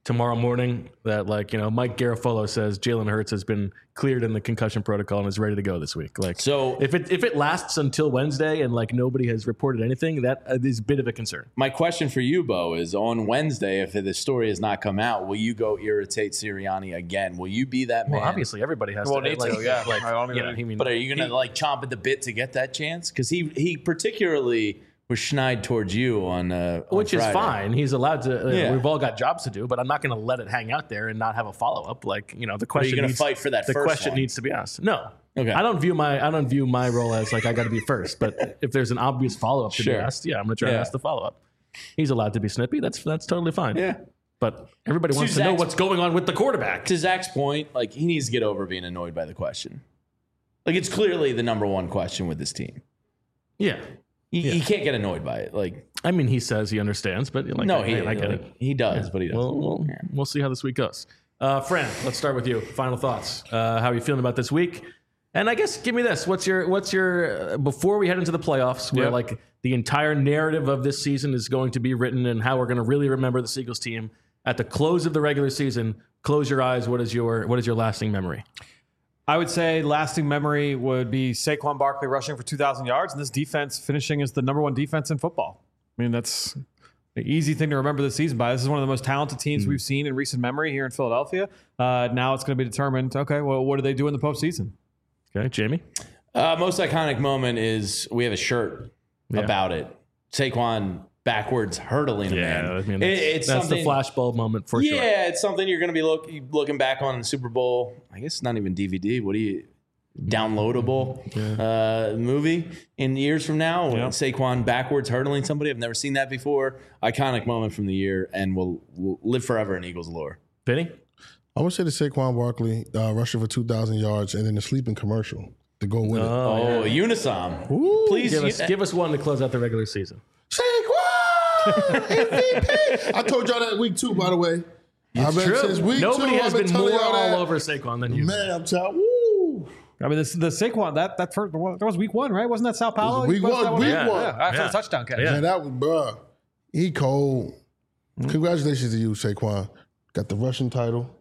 S1: tomorrow morning that, like, you know, Mike Garafolo says Jalen Hurts has been cleared in the concussion protocol and is ready to go this week. Like,
S3: so
S1: if it if it lasts until Wednesday and like nobody has reported anything, that is a bit of a concern.
S3: My question for you, Bo, is on Wednesday, if the story has not come out, will you go irritate Sirianni again? Will you be that man?
S1: Well, obviously everybody has
S4: well,
S1: to.
S4: Need
S1: like,
S4: to, yeah.
S1: Like,
S4: I don't
S1: yeah,
S4: even,
S1: I mean,
S3: but are you going to like chomp at the bit to get that chance? Because he he particularly was schneid towards you on, uh, on
S1: which
S3: Friday.
S1: is fine. He's allowed to. Uh,
S3: Yeah.
S1: We've all got jobs to do, but I'm not going to let it hang out there and not have a follow up. Like, you know, the
S3: Are you
S1: question
S3: going to
S1: needs,
S3: fight for that
S1: the
S3: first
S1: question
S3: one?
S1: needs to be asked. No.
S3: Okay.
S1: I don't view my I don't view my role as like I got to be first. But if there's an obvious follow up to
S3: Sure.
S1: be asked, yeah, I'm going to try
S3: Yeah.
S1: to ask the follow up. He's allowed to be snippy. That's that's totally fine.
S3: Yeah.
S1: But everybody
S3: To
S1: wants to know
S3: Zach's-
S1: what's going on with the quarterback.
S3: To Zach's point, like he needs to get over being annoyed by the question. Like it's clearly the number one question with this team.
S1: Yeah.
S3: You,
S1: Yeah.
S3: you can't get annoyed by it. Like
S1: I mean, he says he understands, but like,
S3: no,
S1: I,
S3: he
S1: I get
S3: like,
S1: it.
S3: He does,
S1: Yeah.
S3: but he doesn't.
S1: We'll, we'll, we'll see how this week goes. Uh, Fran, let's start with you. Final thoughts. Uh, how are you feeling about this week? And I guess give me this. What's your what's your uh, before we head into the playoffs, where
S4: Yeah.
S1: like the entire narrative of this season is going to be written and how we're going to really remember the Eagles team at the close of the regular season. Close your eyes. What is your what is your lasting memory?
S4: I would say lasting memory would be Saquon Barkley rushing for two thousand yards and this defense finishing as the number one defense in football. I mean, that's an easy thing to remember this season by. This is one of the most talented teams mm. we've seen in recent memory here in Philadelphia. Uh, now it's going to be determined, okay, well, what do they do in the postseason?
S1: Okay, Jamie?
S3: Uh, most iconic moment is we have a shirt
S1: Yeah.
S3: about it. Saquon backwards hurtling a man.
S1: I mean,
S3: It-
S1: that's,
S3: it's
S1: that's the
S3: something-
S1: flashbulb moment for sure.
S3: Yeah, it's something you're going to be look, looking back on in the Super Bowl. I guess it's not even D V D. What do you downloadable uh, movie in years from now? When
S1: Yeah.
S3: Saquon backwards hurdling somebody. I've never seen that before. Iconic moment from the year, and will will live forever in Eagles lore.
S1: Vinny?
S2: I would say the Saquon Barkley uh, rushing for two thousand yards and then the sleeping commercial to go with
S3: Oh,
S2: it.
S3: Unisom.
S1: Ooh,
S3: Please
S1: give us,
S3: you-
S1: give us one to close out the regular season.
S2: Saquon! M V P! I told y'all that week two, by the way.
S1: It's
S2: I've been
S1: true.
S2: since week
S1: Nobody
S2: two,
S1: has
S2: I've been
S1: been
S2: telling
S1: more
S2: y'all that.
S1: all over Saquon than you.
S2: Man, I'm telling woo.
S4: I mean, this, the Saquon, that that first, that was week one, right? Wasn't that Sao Paulo?
S2: Week
S4: You posted
S2: one,
S4: that
S2: week
S4: Yeah,
S2: one.
S4: yeah, after
S1: Yeah.
S4: the touchdown catch.
S1: Yeah.
S2: Man, that was, bruh. He cold. Congratulations to you, Saquon. Got the Russian title.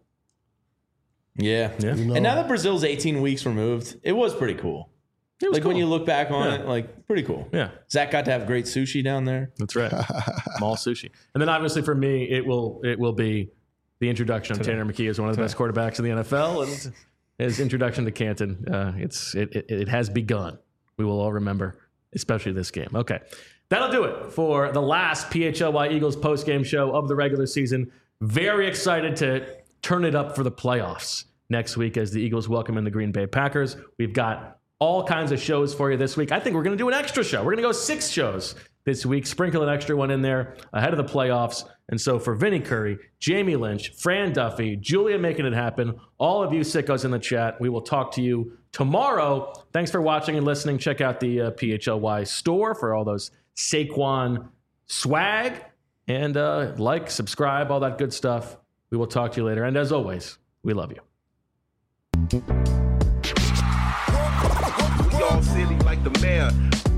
S3: Yeah.
S1: Yeah.
S2: You know,
S3: And now that Brazil's eighteen weeks removed, it was pretty cool.
S1: It was
S3: like when
S1: cool.
S3: you look back on
S1: Yeah.
S3: it, like pretty cool.
S1: Yeah.
S3: Zach got to have great sushi down there.
S1: That's right. Mall sushi. And then obviously for me, it will it will be the introduction of Tanner McKee as one of the best quarterbacks in the N F L, and his introduction to Canton. Uh, it's it, it it has begun. We will all remember, especially this game. Okay, that'll do it for the last P H L Y Eagles post game show of the regular season. Very excited to turn it up for the playoffs next week as the Eagles welcome in the Green Bay Packers. We've got all kinds of shows for you this week. I think we're going to do an extra show. We're going to go six shows this week, sprinkle an extra one in there ahead of the playoffs. And so for Vinny Curry, Jamie Lynch, Fran Duffy, Julia making it happen, all of you sickos in the chat, we will talk to you tomorrow. Thanks for watching and listening. Check out the uh, P H L Y store for all those Saquon swag. And uh, like, subscribe, all that good stuff. We will talk to you later. And as always, we love you.
S16: We all silly like the mayor.